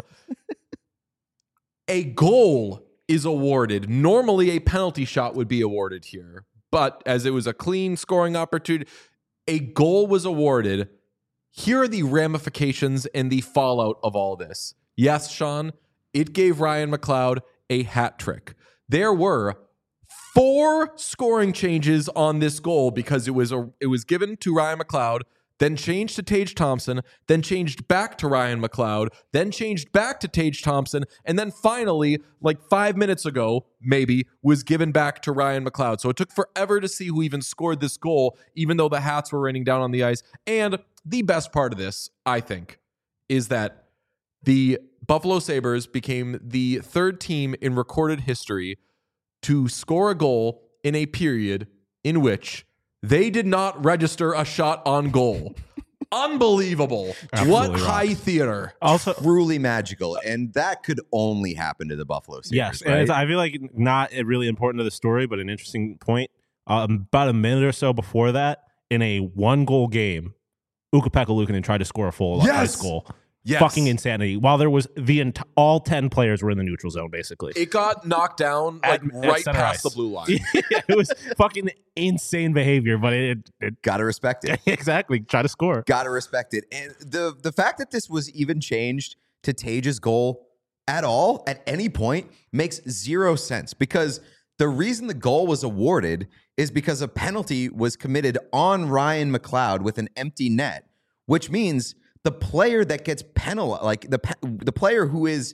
A goal is awarded. Normally, a penalty shot would be awarded here, but as it was a clean scoring opportunity, a goal was awarded. Here are the ramifications and the fallout of all this. Yes, Sean, it gave Ryan McLeod a hat trick. There were four scoring changes on this goal because it was a it was given to Ryan McLeod, then changed to Tage Thompson, then changed back to Ryan McLeod, then changed back to Tage Thompson, and then finally, like five minutes ago, maybe, was given back to Ryan McLeod. So it took forever to see who even scored this goal, even though the hats were raining down on the ice. And the best part of this, I think, is that the Buffalo Sabres became the third team in recorded history to score a goal in a period in which they did not register a shot on goal. Unbelievable. Absolutely What wrong. high theater. Also, Truly magical. And that could only happen to the Buffalo Sabres. yes, and right? it's, I feel like not really important to the story, but an interesting point. Um, about a minute or so before that, in a one-goal game, Ukko-Pekka Luukkonen tried to score a full Yes! ice goal. Yes. Fucking insanity. While there was the ent- all ten players were in the neutral zone, basically. It got knocked down At- like at right center past ice. the blue line. Yeah, it was fucking insane behavior, but it, it Gotta respect it. exactly try to score. Gotta respect it. And the the fact that this was even changed to Tage's goal at all, at any point, makes zero sense. Because the reason the goal was awarded is because a penalty was committed on Ryan McLeod with an empty net, which means the player that gets penalized, like the pe- the player who is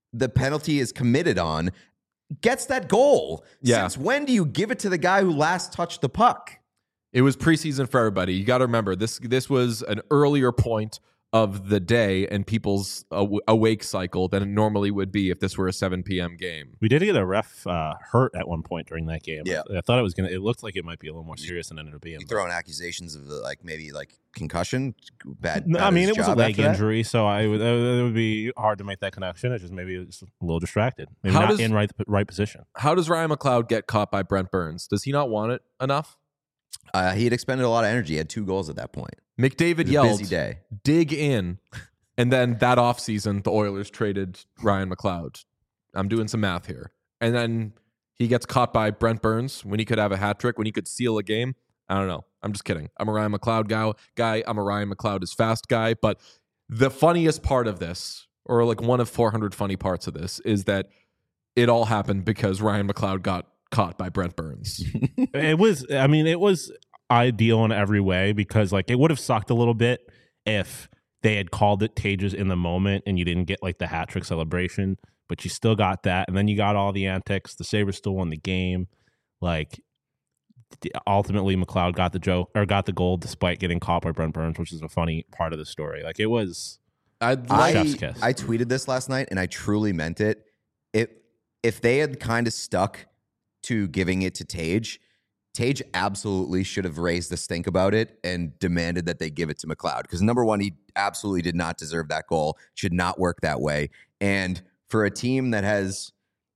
the penalty is committed on gets that goal. Yeah. Since when do you give it to the guy who last touched the puck? It was preseason for everybody. You got to remember this. This was an earlier point of the day and people's aw- awake cycle than it normally would be if this were a seven p.m. game. We did get a ref uh, hurt at one point during that game. Yeah. I thought it was gonna. It looked like it might be a little more serious than it ended up being. You throwing accusations of the, like maybe like concussion, bad. No, bad I at mean, his it was a job leg after that? injury, so I would, uh, it would be hard to make that connection. It's just maybe it was a little distracted, maybe How not does- in right right position. How does Ryan McLeod get caught by Brent Burns? Does he not want it enough? Uh, he had expended a lot of energy. He had two goals at that point. McDavid It was a yelled, busy day. dig in. And then that offseason, the Oilers traded Ryan McLeod. I'm doing some math here. And then he gets caught by Brent Burns when he could have a hat trick, when he could seal a game. I don't know. I'm just kidding. I'm a Ryan McLeod guy. guy. I'm a Ryan McLeod is fast guy. But the funniest part of this, or like one of four hundred funny parts of this, is that it all happened because Ryan McLeod got caught by Brent Burns. It was. I mean, it was ideal in every way because like it would have sucked a little bit if they had called it Tages in the moment and you didn't get like the hat trick celebration, but you still got that. And then you got all the antics. The Sabres still won the game. Like ultimately McLeod got the joke or got the goal despite getting caught by Brent Burns, which is a funny part of the story. Like it was I'd I, like, Chef's kiss. I tweeted this last night and I truly meant it. If if they had kind of stuck to giving it to Tage, Tage absolutely should have raised the stink about it and demanded that they give it to McLeod. Because number one, he absolutely did not deserve that goal. Should not work that way. And for a team that has,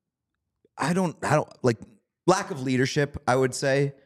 I don't, I don't like lack of leadership, I would say,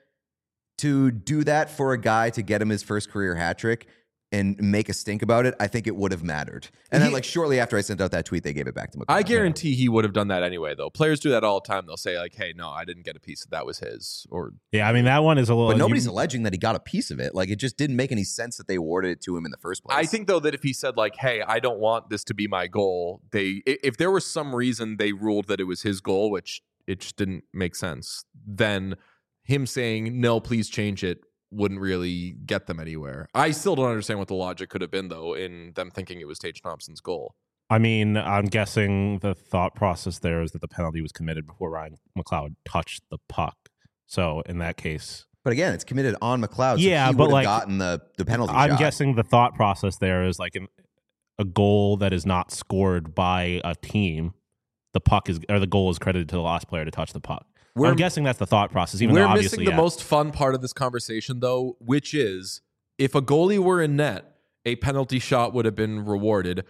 to do that for a guy to get him his first career hat trick and make a stink about it, I think it would have mattered. And then, He- like, shortly after I sent out that tweet, they gave it back to McLeod. I guarantee he would have done that anyway, though. Players do that all the time. They'll say, like, hey, no, I didn't get a piece. That was his. Or yeah. I mean, that one is a little. But nobody's you- alleging that he got a piece of it. Like, it just didn't make any sense that they awarded it to him in the first place. I think, though, that if he said, like, hey, I don't want this to be my goal, they i- if there was some reason they ruled that it was his goal, which it just didn't make sense, then him saying, no, please change it, wouldn't really get them anywhere. I still don't understand what the logic could have been, though, in them thinking it was Tage Thompson's goal. I mean, I'm guessing the thought process there is that the penalty was committed before Ryan McLeod touched the puck. So in that case, But again, it's committed on McLeod. So Yeah, he but, would have like, gotten the, the penalty I'm shot. guessing the thought process there is like an, a goal that is not scored by a team. The puck is, or the goal is credited to the last player to touch the puck. We're- I'm guessing that's the thought process. Even We're though obviously, missing the yeah. most fun part of this conversation, though, which is if a goalie were in net, a penalty shot would have been rewarded.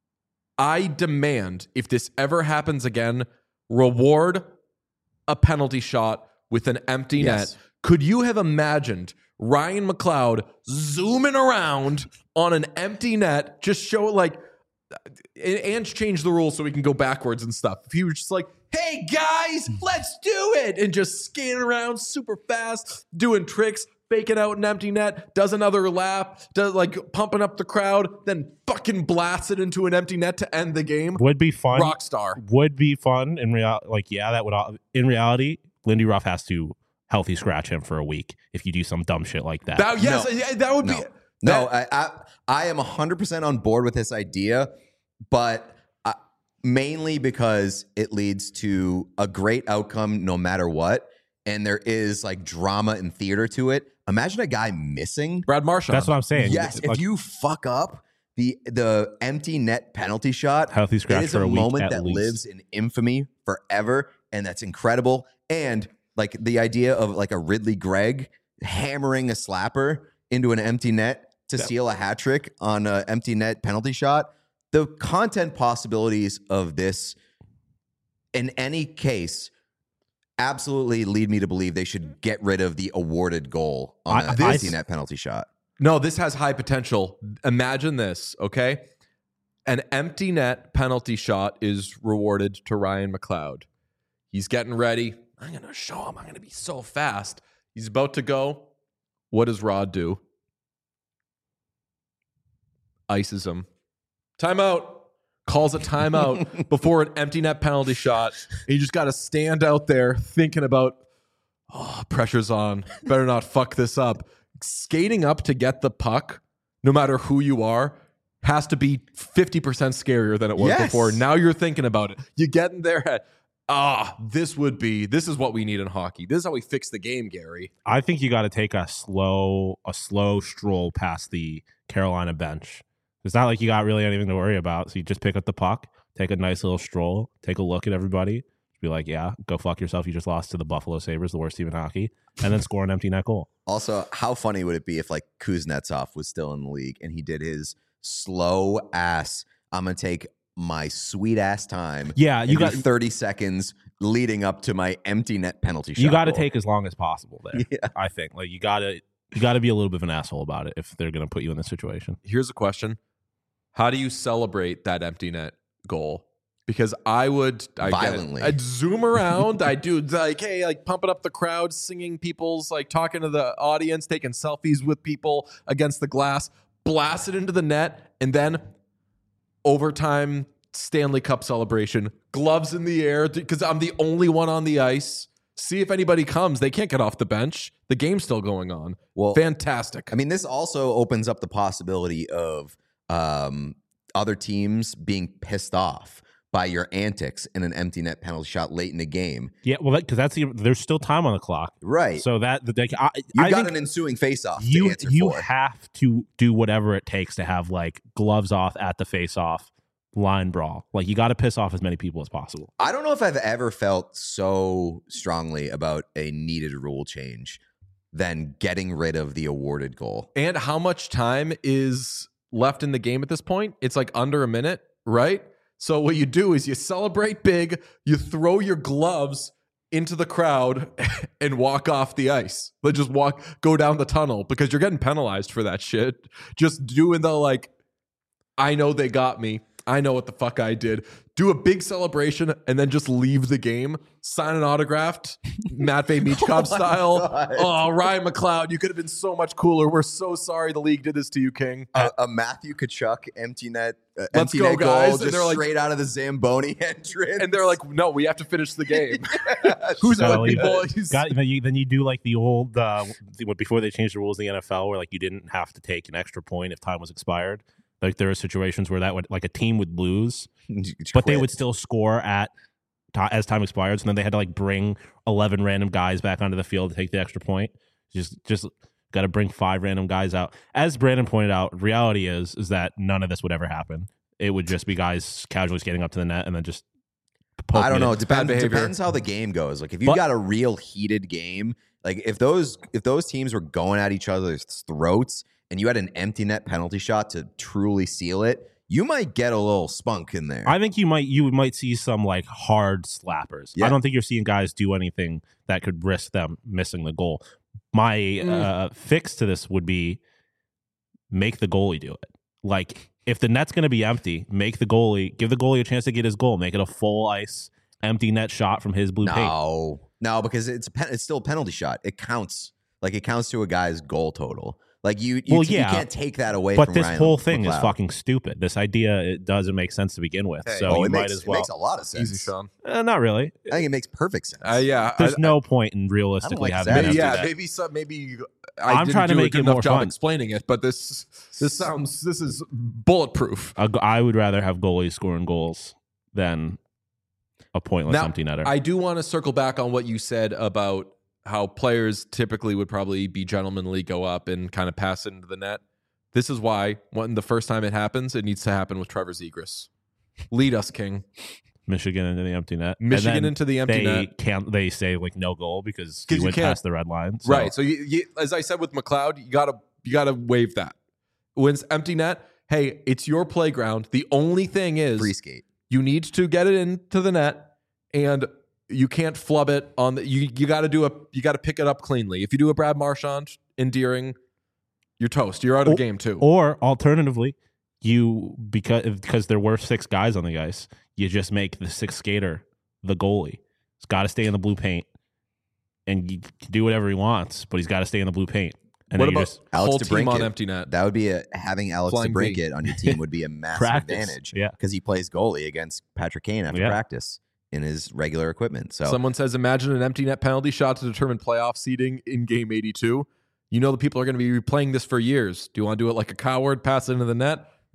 I demand, if this ever happens again, reward a penalty shot with an empty Yes. net. Could you have imagined Ryan McLeod zooming around on an empty net, just show like, and and change the rules so we can go backwards and stuff. If he was just like, hey guys, let's do it, and just scanning around super fast, doing tricks, faking out an empty net, does another lap, does like pumping up the crowd, then fucking blasts it into an empty net to end the game. would be fun. Rock star. Would be fun in real. Like yeah, that would. al- In reality, Lindy Ruff has to healthy scratch him for a week if you do some dumb shit like that. That, yes, No. yeah, that would No. be. No, that- I, I I am one hundred percent on board with this idea, but uh, mainly because it leads to a great outcome no matter what. And there is like drama and theater to it. Imagine a guy missing. Brad Marchand. That's what I'm saying. Yes, if Like, you fuck up the the empty net penalty shot, healthy it scratch is for a, a week moment at that least. lives in infamy forever, and that's incredible. And like the idea of like a Ridley Gregg hammering a slapper into an empty net to Yeah. seal a hat trick on an empty net penalty shot. The content possibilities of this, in any case, absolutely lead me to believe they should get rid of the awarded goal on I- an I- empty net penalty shot. No, this has high potential. Imagine this, okay? An empty net penalty shot is rewarded to Ryan McLeod. He's getting ready. I'm going to show him. I'm going to be so fast. He's about to go. What does Rod do? Ices him. Timeout. Calls a timeout before an empty net penalty shot. And you just got to stand out there thinking about, oh, pressure's on. Better not fuck this up. Skating up to get the puck, no matter who you are, has to be fifty percent scarier than it was Yes. before. Now you're thinking about it. You get in their head. Ah, this would be, this is what we need in hockey. This is how we fix the game, Gary. I think you got to take a slow, a slow stroll past the Carolina bench. It's not like you got really anything to worry about. So you just pick up the puck, take a nice little stroll, take a look at everybody, be like, yeah, go fuck yourself. You just lost to the Buffalo Sabres, the worst team in hockey, and then score an empty net goal. Also, how funny would it be if like Kuznetsov was still in the league and he did his slow ass, I'm going to take my sweet ass time. Yeah, you and do got thirty seconds leading up to my empty net penalty shot. You got to goal. take as long as possible there. Yeah. I think like you got to you got to be a little bit of an asshole about it if they're going to put you in this situation. Here's a question. How do you celebrate that empty net goal? Because I would I Violently. I'd zoom around. I do like, hey, like pumping up the crowd, singing people's, like talking to the audience, taking selfies with people against the glass, blast it into the net, and then overtime Stanley Cup celebration, gloves in the air because I'm the only one on the ice. See if anybody comes. They can't get off the bench. The game's still going on. Well, Fantastic. I mean, this also opens up the possibility of um, other teams being pissed off by your antics in an empty net penalty shot late in the game. Yeah, well, because that, that's the, there's still time on the clock, Right. so that the they, I, You I got think an ensuing face-off to you answer you for. have to do whatever it takes to have like gloves off at the face-off line brawl. Like you got to piss off as many people as possible. I don't know if I've ever felt so strongly about a needed rule change than getting rid of the awarded goal. And how much time is left in the game at this point? It's like under a minute, right? So what you do is you celebrate big, you throw your gloves into the crowd and walk off the ice. Like just walk, go down the tunnel because you're getting penalized for that shit. Just doing the like, I know they got me. I know what the fuck I did. Do a big celebration and then just leave the game. Sign an autographed Matvey Michkov Oh my style. God. Oh, Ryan McLeod, you could have been so much cooler. We're so sorry the league did this to you, King. A, a Matthew Kachuk empty net, uh, Let's empty go, net guys. goal And just they're like- straight out of the Zamboni entrance. And they're like, no, we have to finish the game. Who's So with you people? He's- got, then, you, then you do like the old uh, the- before they changed the rules in the N F L where like you didn't have to take an extra point if time was expired. Like there are situations where that would like a team would lose, but they would still score at as time expires, and then they had to like bring eleven random guys back onto the field to take the extra point. Just just got to bring five random guys out. As Brandon pointed out, reality is is that none of this would ever happen. It would just be guys casually skating up to the net and then just. I don't know. It. It depends, behavior. depends how the game goes. Like if you But- got a real heated game, like if those if those teams were going at each other's throats and you had an empty net penalty shot to truly seal it, you might get a little spunk in there. I think you might you might see some like hard slappers. Yeah. I don't think you're seeing guys do anything that could risk them missing the goal. My Mm. uh, fix to this would be make the goalie do it. Like if the net's going to be empty, make the goalie give the goalie a chance to get his goal. Make it a full ice empty net shot from his blue paint. no, no, because it's a pen, it's still a penalty shot. It counts. Like it counts to a guy's goal total. Like you, you, Well, you yeah, can't take that away. But from this Ryan whole thing is McLeod. fucking stupid. This idea it doesn't make sense to begin with. Hey, so Oh, you it might makes, as it well. makes a lot of sense. Easy, Sean. Uh, not really. I think it makes perfect sense. Uh, yeah. There's I- no point in realistically like having that. an Maybe, empty yeah, net. maybe some, maybe I I'm didn't trying to do a make good it enough more job fun. explaining it, but this this sounds this is bulletproof. A go- I would rather have goalies scoring goals than a pointless Now, empty netter. I do want to circle back on what you said about how players typically would probably be gentlemanly, go up and kind of pass it into the net. This is why when the first time it happens, it needs to happen with Trevor Zegras. Lead us, King. Michigan into the empty net. And Michigan then into the empty they net. can't. They say like no goal because 'Cause he you went can't- past the red line. So- Right. So you, you, as I said with McLeod, you gotta you gotta waive that. When it's empty net, hey, it's your playground. The only thing is Free skate. you need to get it into the net, and you can't flub it on the. You you got to do a. You got to pick it up cleanly. If you do a Brad Marchand endearing, you're toast. You're out of the game too. Or alternatively, you because because there were six guys on the ice, you just make the sixth skater the goalie. He's got to stay in the blue paint, and you can do whatever he wants, but he's got to stay in the blue paint. And what then you about just Alex whole team on DeBrincat. empty net? That would be a having Alex Flying V. DeBrincat on your team would be a massive practice? advantage. Yeah. Because he plays goalie against Patrick Kane after Yeah. practice in his regular equipment. So Someone says, imagine an empty net penalty shot to determine playoff seeding in game eighty-two. You know the people are going to be replaying this for years. Do you want to do it like a coward, pass it into the net? Or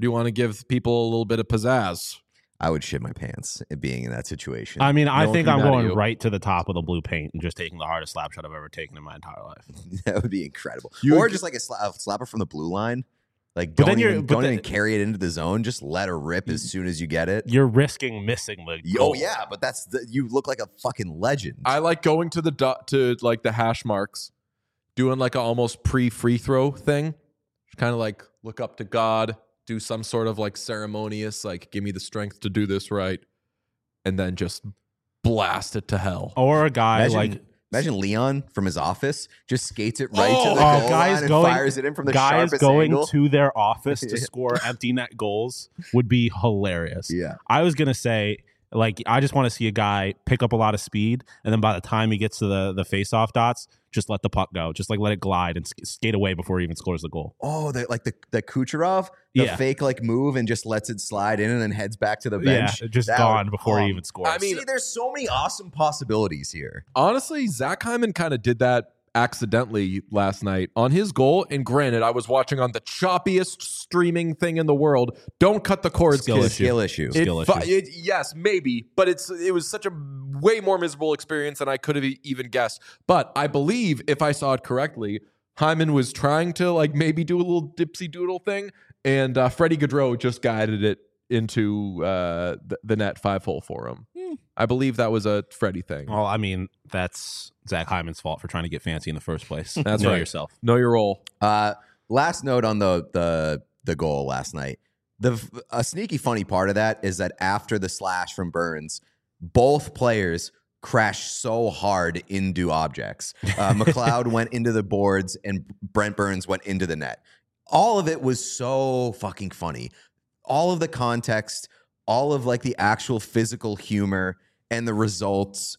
do you want to give people a little bit of pizzazz? I would shit my pants at being in that situation. I mean, I No one think can I'm be mad at going you. right to the top of the blue paint and just taking the hardest slap shot I've ever taken in my entire life. That would be incredible. You or would- just like a, sla- a slapper from the blue line. Like, But don't then you're- even, but don't then- even carry it into the zone. Just let her rip as soon as you get it. You're risking missing the Oh, goal. yeah, but that's the, you look like a fucking legend. I like going to the dot to like the hash marks, doing like a almost pre free throw thing, kind of like look up to God, do some sort of like ceremonious, like give me the strength to do this right, and then just blast it to hell. Or a guy imagine, like imagine Leon from his office just skates it right Oh, to the oh, goal guys line and going- fires it in from the guys sharpest going angle. to their office to score empty net goals would be hilarious. Yeah. I was gonna say, like, I just want to see a guy pick up a lot of speed, and then by the time he gets to the the face off dots, just let the puck go, just like let it glide and sk- skate away before he even scores the goal. Oh, the, like the, the Kucherov, the Yeah. fake like move and just lets it slide in and then heads back to the bench. Yeah, just That gone would- before oh. he even scores. I mean- See, there's so many awesome possibilities here. Honestly, Zach Hyman kind of did that accidentally last night on his goal. And granted, I was watching on the choppiest streaming thing in the world. Don't cut the cords, Skill kids. issue. Skill issue. It Skill fu- issue. it- yes, maybe, but it's it was such a way more miserable experience than I could have e- even guessed. But I believe, if I saw it correctly, Hyman was trying to like maybe do a little dipsy doodle thing, and uh, Freddie Gaudreau just guided it into uh, the, the net five hole for him. I believe that was a Freddie thing. Well, I mean, that's Zach Hyman's fault for trying to get fancy in the first place. That's know right. yourself. Know your role. Uh, last note on the the the goal last night. The a sneaky funny part of that is that after the slash from Burns, both players crashed so hard into objects. Uh, McLeod went into the boards and Brent Burns went into the net. All of it was so fucking funny. All of the context, all of like the actual physical humor and the results.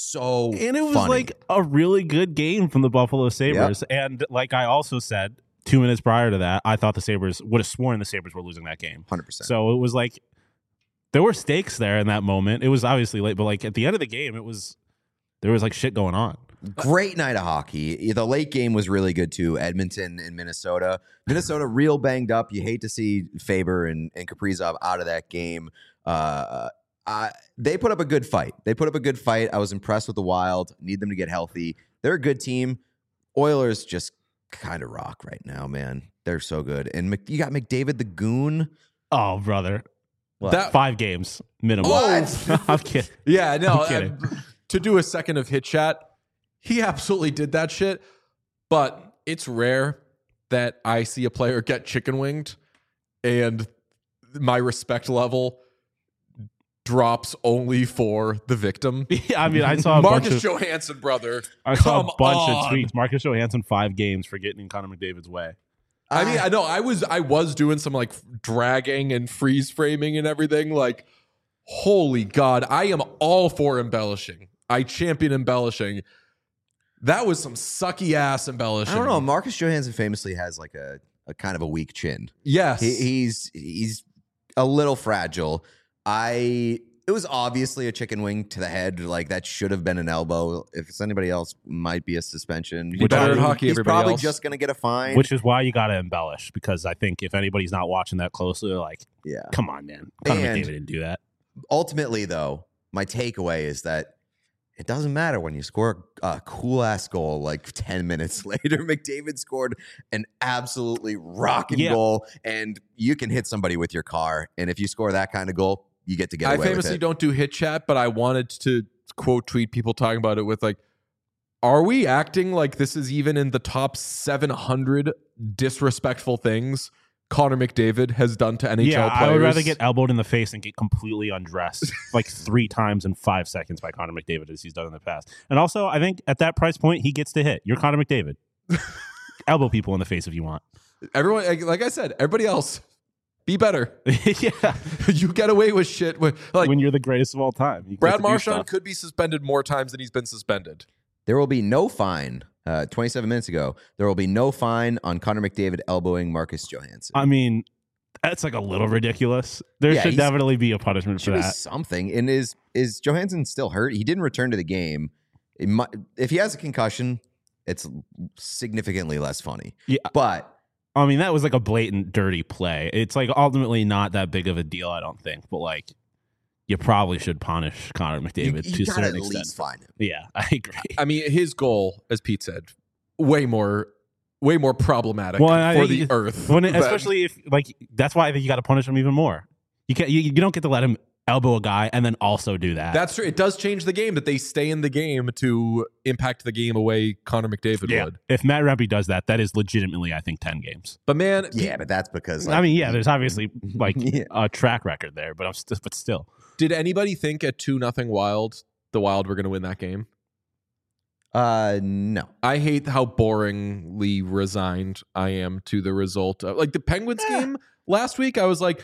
So And it was funny. like a really good game from the Buffalo Sabres. And like I also said two minutes prior to that, I thought the Sabres would have sworn the Sabres were losing that game. one hundred percent. So it was like there were stakes there in that moment. It was obviously late, but like at the end of the game, it was there was like shit going on. Great night of hockey. The late game was really good too. Edmonton and Minnesota. Minnesota real banged up. You hate to see Faber and, and Kaprizov out of that game. Uh, I, they put up a good fight. They put up a good fight. I was impressed with the Wild. Need them to get healthy. They're a good team. Oilers just kind of rock right now, man. They're so good. And Mc, you got McDavid the Goon. Oh, brother. What? That- Five games minimum. What? I'm kidding. Yeah, no. I'm kidding. uh, to do a second of hit chat, he absolutely did that shit. But it's rare that I see a player get chicken winged and my respect level drops only for the victim. Yeah, I mean, I saw a Marcus bunch of Johansson, brother. I saw come a bunch on. of tweets. Marcus Johansson five games for getting in Connor McDavid's way. I mean, I know I was I was doing some like dragging and freeze framing and everything. Like, holy God, I am all for embellishing. I champion embellishing. That was some sucky ass embellishing. I don't know. Marcus Johansson famously has like a, a kind of a weak chin. Yes. He, he's he's a little fragile. I it was obviously a chicken wing to the head. Like that should have been an elbow. If it's anybody else, might be a suspension. You're better at probably- hockey, He's everybody probably else. just gonna get a fine. Which is why you got to embellish, because I think if anybody's not watching that closely, they're like, yeah. come on, man. Connor And- McDavid didn't do that. Ultimately, though, my takeaway is that it doesn't matter when you score a cool ass goal like ten minutes later. McDavid scored an absolutely rocking Yeah. goal, and you can hit somebody with your car. And if you score that kind of goal, you get to get I away with famously it. don't do hit chat, but I wanted to quote tweet people talking about it with like, are we acting like this is even in the top seven hundred disrespectful things Connor McDavid has done to N H L Yeah, players? I would rather get elbowed in the face and get completely undressed like three times in five seconds by Connor McDavid as he's done in the past. And also, I think at that price point, he gets to hit. You're Connor McDavid. Elbow people in the face if you want. everyone. like- Like I said, everybody else, be better. Yeah, You get away with shit. With, like when you're the greatest of all time. You get Brad to do Marchand stuff. could be suspended more times than he's been suspended. There will be no fine. Uh, twenty-seven minutes ago, there will be no fine on Connor McDavid elbowing Marcus Johansson. I mean, that's like a little ridiculous. There Yeah, should he's- definitely be a punishment for Should be that. something. And is is Johansson still hurt? He didn't return to the game. It might, if he has a concussion, it's significantly less funny. Yeah. But I mean, that was like a blatant dirty play. It's like ultimately not that big of a deal, I don't think. But like, you probably should punish Connor McDavid you, to you a gotta certain at extent. least find him. Yeah, I agree. I mean, his goal, as Pete said, way more, way more problematic Well, I for think the earth. When, than- especially if like that's why I think you got to punish him even more. You can't. You, you don't get to let him elbow a guy and then also do that. That's true. It does change the game that they stay in the game to impact the game away Connor McDavid yeah. would. If Matt Rempe does that, that is legitimately, I think, ten games. But man, Yeah, but that's because like, I mean, yeah, there's obviously like Yeah. a track record there, but I'm st- but still. did anybody think at two nothing Wild, the Wild were going to win that game? uh no. I hate how boringly resigned I am to the result. Of, like the Penguins Yeah. game last week, I was like,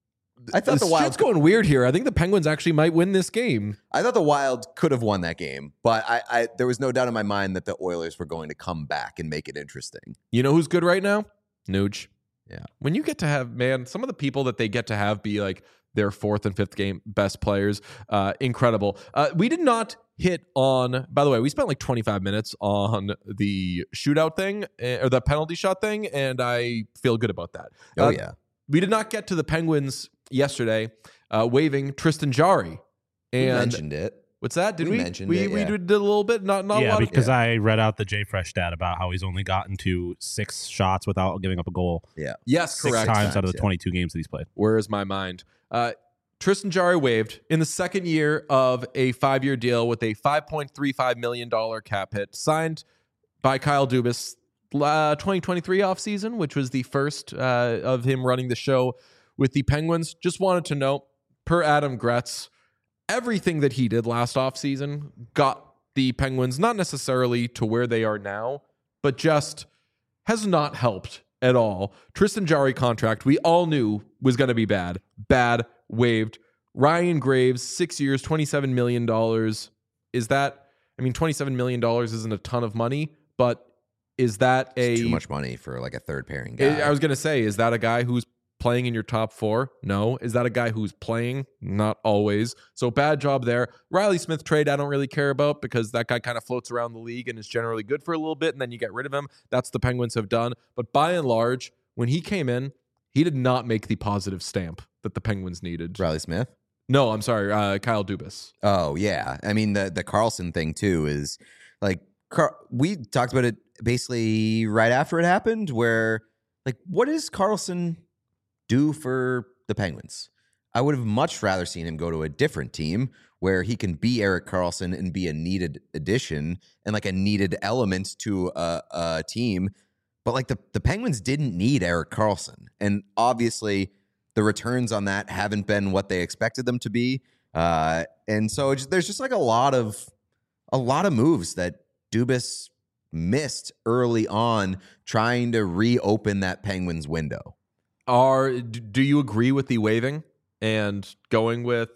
I thought the this Wild shit's going weird here. I think the Penguins actually might win this game. I thought the Wild could have won that game, but I, I there was no doubt in my mind that the Oilers were going to come back and make it interesting. You know who's good right now? Nuge. Yeah. When you get to have, man, some of the people that they get to have be like their fourth and fifth game best players, uh, incredible. Uh, we did not hit on, by the way, we spent like twenty-five minutes on the shootout thing uh, or the penalty shot thing, and I feel good about that. Oh Uh, yeah. We did not get to the Penguins yesterday uh, waiving Tristan Jarry. We And mentioned it. what's that? Did we we? mentioned we it, we yeah. did a little bit, not not a yeah, lot. Of, because I read out the Jay Fresh stat about how he's only gotten to six shots without giving up a goal yes, six correct. times out of times, the yeah. twenty-two games that he's played. Where is my mind? Uh, Tristan Jarry waived in the second year of a five-year deal with a five point three five million dollars cap hit, signed by Kyle Dubas uh, twenty twenty-three offseason, which was the first uh, of him running the show with the Penguins. Just wanted to note, per Adam Gretz, everything that he did last offseason got the Penguins not necessarily to where they are now, but just has not helped at all. Tristan Jarry contract, we all knew was going to be bad. Bad, waived. Ryan Graves, six years, twenty-seven million dollars. Is that, I mean, twenty-seven million dollars isn't a ton of money, but is that a... It's too much money for like a third pairing guy. I was going to say, is that a guy who's playing in your top four? No. Is that a guy who's playing? Not always. So bad job there. Riley Smith trade, I don't really care about because that guy kind of floats around the league and is generally good for a little bit, and then you get rid of him. That's the Penguins have done. But by and large, when he came in, he did not make the positive stamp that the Penguins needed. Riley Smith. No, I'm sorry, uh, Kyle Dubas. Oh yeah, I mean the the Carlson thing too is like Car- we talked about it basically right after it happened. Where like, what does Carlson do for the Penguins? I would have much rather seen him go to a different team where he can be Erik Karlsson and be a needed addition and like a needed element to a, a team. But like the the Penguins didn't need Erik Karlsson, and obviously the returns on that haven't been what they expected them to be. Uh, and so it's, there's just like a lot of a lot of moves that Dubas missed early on trying to reopen that Penguins window. Are d- do you agree with the waiving and going with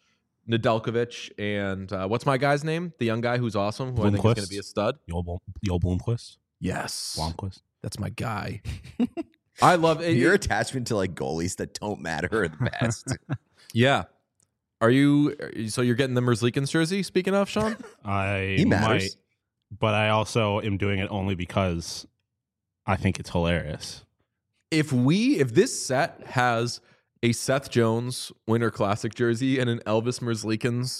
Nedeljkovic and uh, what's my guy's name? The young guy who's awesome, who I think is Blomqvist? going to be a stud. Joel, Blom- Joel Blomqvist? Yes, Blomqvist? that's my guy. I love it. Your attachment to like goalies that don't matter are the best. Yeah. Are you? So you're getting the Merzlikins jersey? Speaking of, Sean. I He matters. might, but I also am doing it only because I think it's hilarious. If we, if this set has a Seth Jones Winter Classic jersey and an Elvis Merzlikins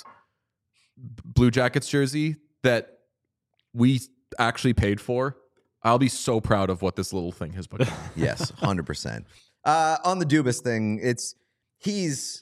Blue Jackets jersey that we actually paid for, I'll be so proud of what this little thing has become. Yes, one hundred percent. Uh, on the Dubas thing, it's he's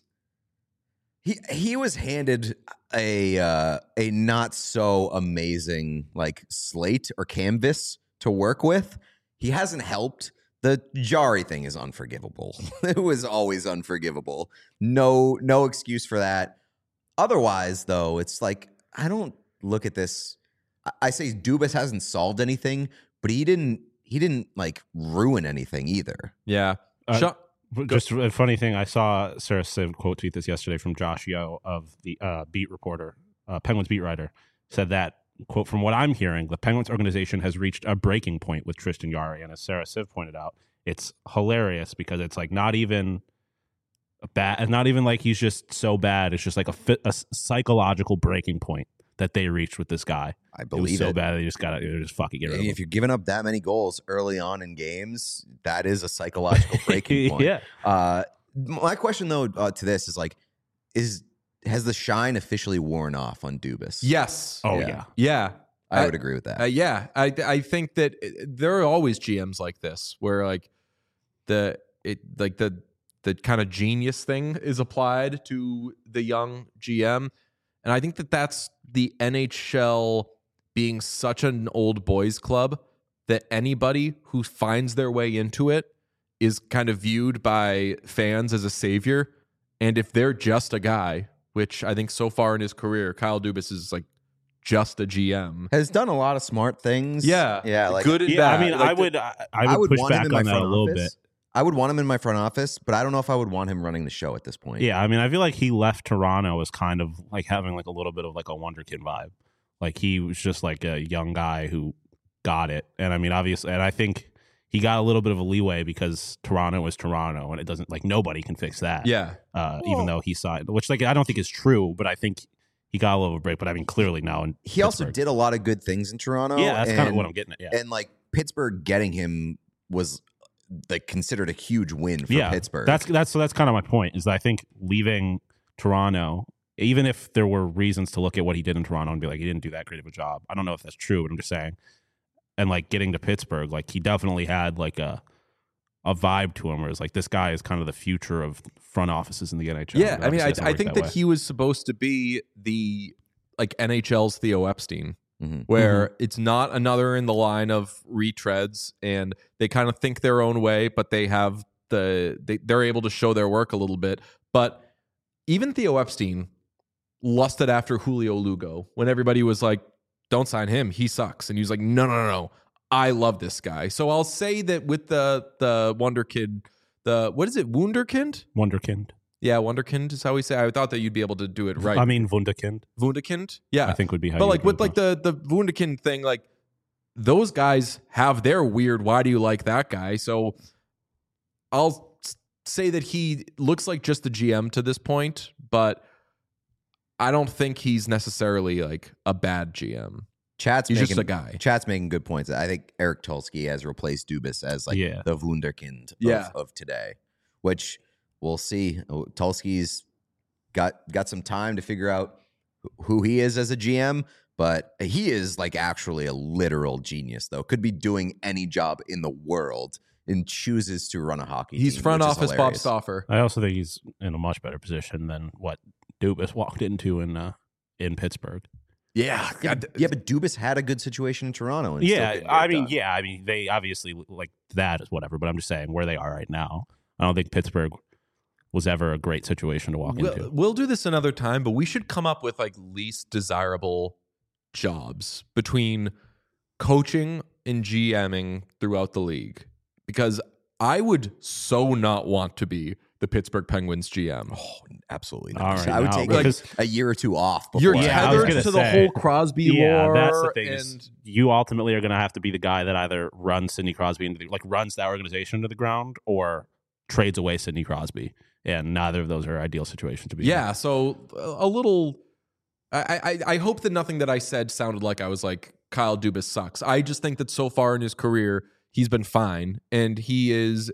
he he was handed a uh, a not so amazing like slate or canvas to work with. He hasn't helped. The Jarry thing is unforgivable. It was always unforgivable. No no excuse for that. Otherwise, though, it's like I don't look at this. I, I say Dubas hasn't solved anything, but he didn't he didn't like ruin anything either. Yeah. Uh, Sean, Just a funny thing, I saw Sarah Siv quote tweet this yesterday from Josh Yo of the uh, beat reporter, uh, Penguins beat writer, said that, quote, from what I'm hearing, the Penguins organization has reached a breaking point with Tristan Jarry. And as Sarah Siv pointed out, it's hilarious because it's like not even bad, not even like he's just so bad. It's just like a, fit, a psychological breaking point that they reached with this guy. I It was believe so it. bad they just got to just fucking get rid of If him. you're giving up that many goals early on in games, that is a psychological breaking point. Yeah. Uh, my question though uh, to this is like, is has the shine officially worn off on Dubas? Yes. Oh Yeah. yeah. Yeah. I I- would agree with that. Uh, yeah, I I think that uh, there are always G Ms like this where like the it like the the kind of genius thing is applied to the young G M, and I think that that's the N H L being such an old boys club that anybody who finds their way into it is kind of viewed by fans as a savior, and if they're just a guy, which I think so far in his career, Kyle Dubas is like just a G M. Has done a lot of smart things. Yeah, yeah. Like good and Yeah, bad. I mean, Like I the- would, I, I would, I would push want him back in my on that a front little office. bit. I would want him in my front office, but I don't know if I would want him running the show at this point. Yeah, I mean, I feel like he left Toronto as kind of like having like a little bit of like a wonderkid vibe. Like he was just like a young guy who got it, and I mean, obviously, and I think he got a little bit of a leeway because Toronto was Toronto, and it doesn't like nobody can fix that. yeah, uh, Well- even though he signed, which like I don't think is true, but I think he got a little break. But I mean, clearly now, in He also Pittsburgh. did a lot of good things in Toronto. Yeah, that's kind of and- what I'm getting at. Yeah, And like Pittsburgh getting him was like considered a huge win for yeah, Pittsburgh. That's that's so that's kind of my point. Is that I think leaving Toronto, even if there were reasons to look at what he did in Toronto and be like he didn't do that great of a job. I don't know if that's true, but I'm just saying. And like getting to Pittsburgh, like he definitely had like a a vibe to him where it's like this guy is kind of the future of front offices in the N H L. yeah. But I mean, I, obviously it doesn't I work think that, way. he was supposed to be the like N H L's Theo Epstein, Mhm. where Mm-hmm. it's not another in the line of retreads, and they kind of think their own way, but they have the they they're able to show their work a little bit. But even Theo Epstein lusted after Julio Lugo when everybody was like, "Don't sign him, he sucks," and he was like, "No, no, no, no, I love this guy." So I'll say that with the the Wonder Kid, the what is it, Wunderkind? Wonderkind. Yeah, Wonderkind is how we say. I thought that you'd be able to do it right. I mean, Wunderkind. Wunderkind. Yeah, I think would be how. but you like would with like the the Wunderkind thing, like those guys have their weird. Why do you like that guy? So I'll s- say that he looks like just a G M to this point, but I don't think he's necessarily like a bad G M. Chat's He's making, just a guy. Chat's making good points. I think Eric Tulsky has replaced Dubas as like Yeah. the Wunderkind of, Yeah. of today, which we'll see. Oh, Tulsky's got got some time to figure out who he is as a G M, but he is like actually a literal genius, though. Could be doing any job in the world and chooses to run a hockey He's team, front which is office Bob hilarious. Stauffer. I also think he's in a much better position than what Dubas walked into in uh, in Pittsburgh. Yeah, Yeah, God, yeah, but Dubas had a good situation in Toronto. And still Yeah, couldn't get I it mean, done. yeah, I mean, they obviously like that is whatever, but I'm just saying where they are right now. I don't think Pittsburgh was ever a great situation to walk We'll, into. we'll do this another time, but we should come up with like least desirable jobs between coaching and GMing throughout the league, because I would so not want to be the Pittsburgh Penguins G M. Oh, absolutely All not. right, I would now, take because- like a year or two off. Before You're I- Yeah, I was tethered gonna to the say, whole Crosby yeah, lore, that's the thing. is and you ultimately are going to have to be the guy that either runs Sidney Crosby into the, like runs that organization into the ground or trades away Sidney Crosby, and neither of those are ideal situations to be. in. yeah. So a little. I, I I hope that nothing that I said sounded like I was like Kyle Dubas sucks. I just think that so far in his career he's been fine, and he is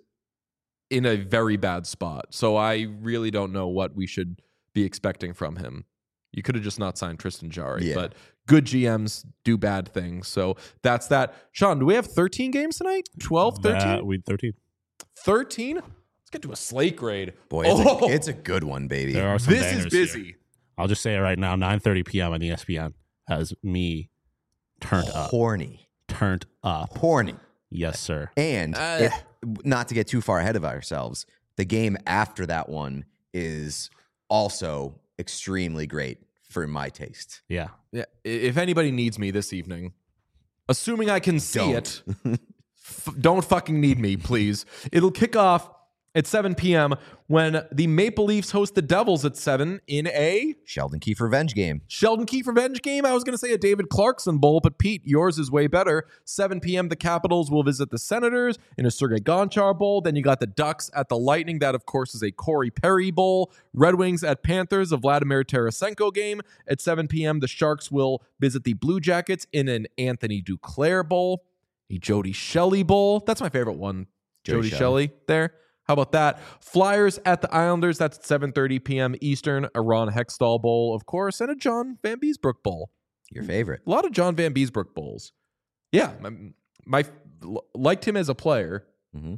in a very bad spot. So I really don't know what we should be expecting from him. You could have just not signed Tristan Jarry, Yeah. but good G Ms do bad things. So that's that. Sean, do we have thirteen games tonight? twelve, That- thirteen? we thirteen. thirteen? Let's get to a slate grade. Boy, it's, Oh, a, it's a good one, baby. There are some this is bangers busy. here. I'll just say it right now. nine thirty p.m. on E S P N has me turned up. Horny. Turned up. Horny. Yes, sir. And Uh. if, not to get too far ahead of ourselves, the game after that one is also extremely great for my taste. Yeah. Yeah, i- if anybody needs me this evening, assuming I can see Don't. it, f- don't fucking need me, please. It'll kick off at seven p.m. when the Maple Leafs host the Devils at seven in a Sheldon Keefe revenge game. Sheldon Keefe revenge game. I was going to say a David Clarkson Bowl, but Pete, yours is way better. seven p.m. the Capitals will visit the Senators in a Sergei Gonchar Bowl. Then you got the Ducks at the Lightning. That, of course, is a Corey Perry Bowl. Red Wings at Panthers, a Vladimir Tarasenko game. At seven p.m., the Sharks will visit the Blue Jackets in an Anthony Duclair Bowl, a Jody Shelley Bowl. That's my favorite one, Jody, Jody Shelley there. How about that? Flyers at the Islanders. That's at seven thirty p.m. Eastern. A Ron Hextall Bowl, of course, and a John Van Beesbrook Bowl. Your favorite. A lot of John Van Beesbrook Bowls. Yeah, my, my liked him as a player. Mm-hmm.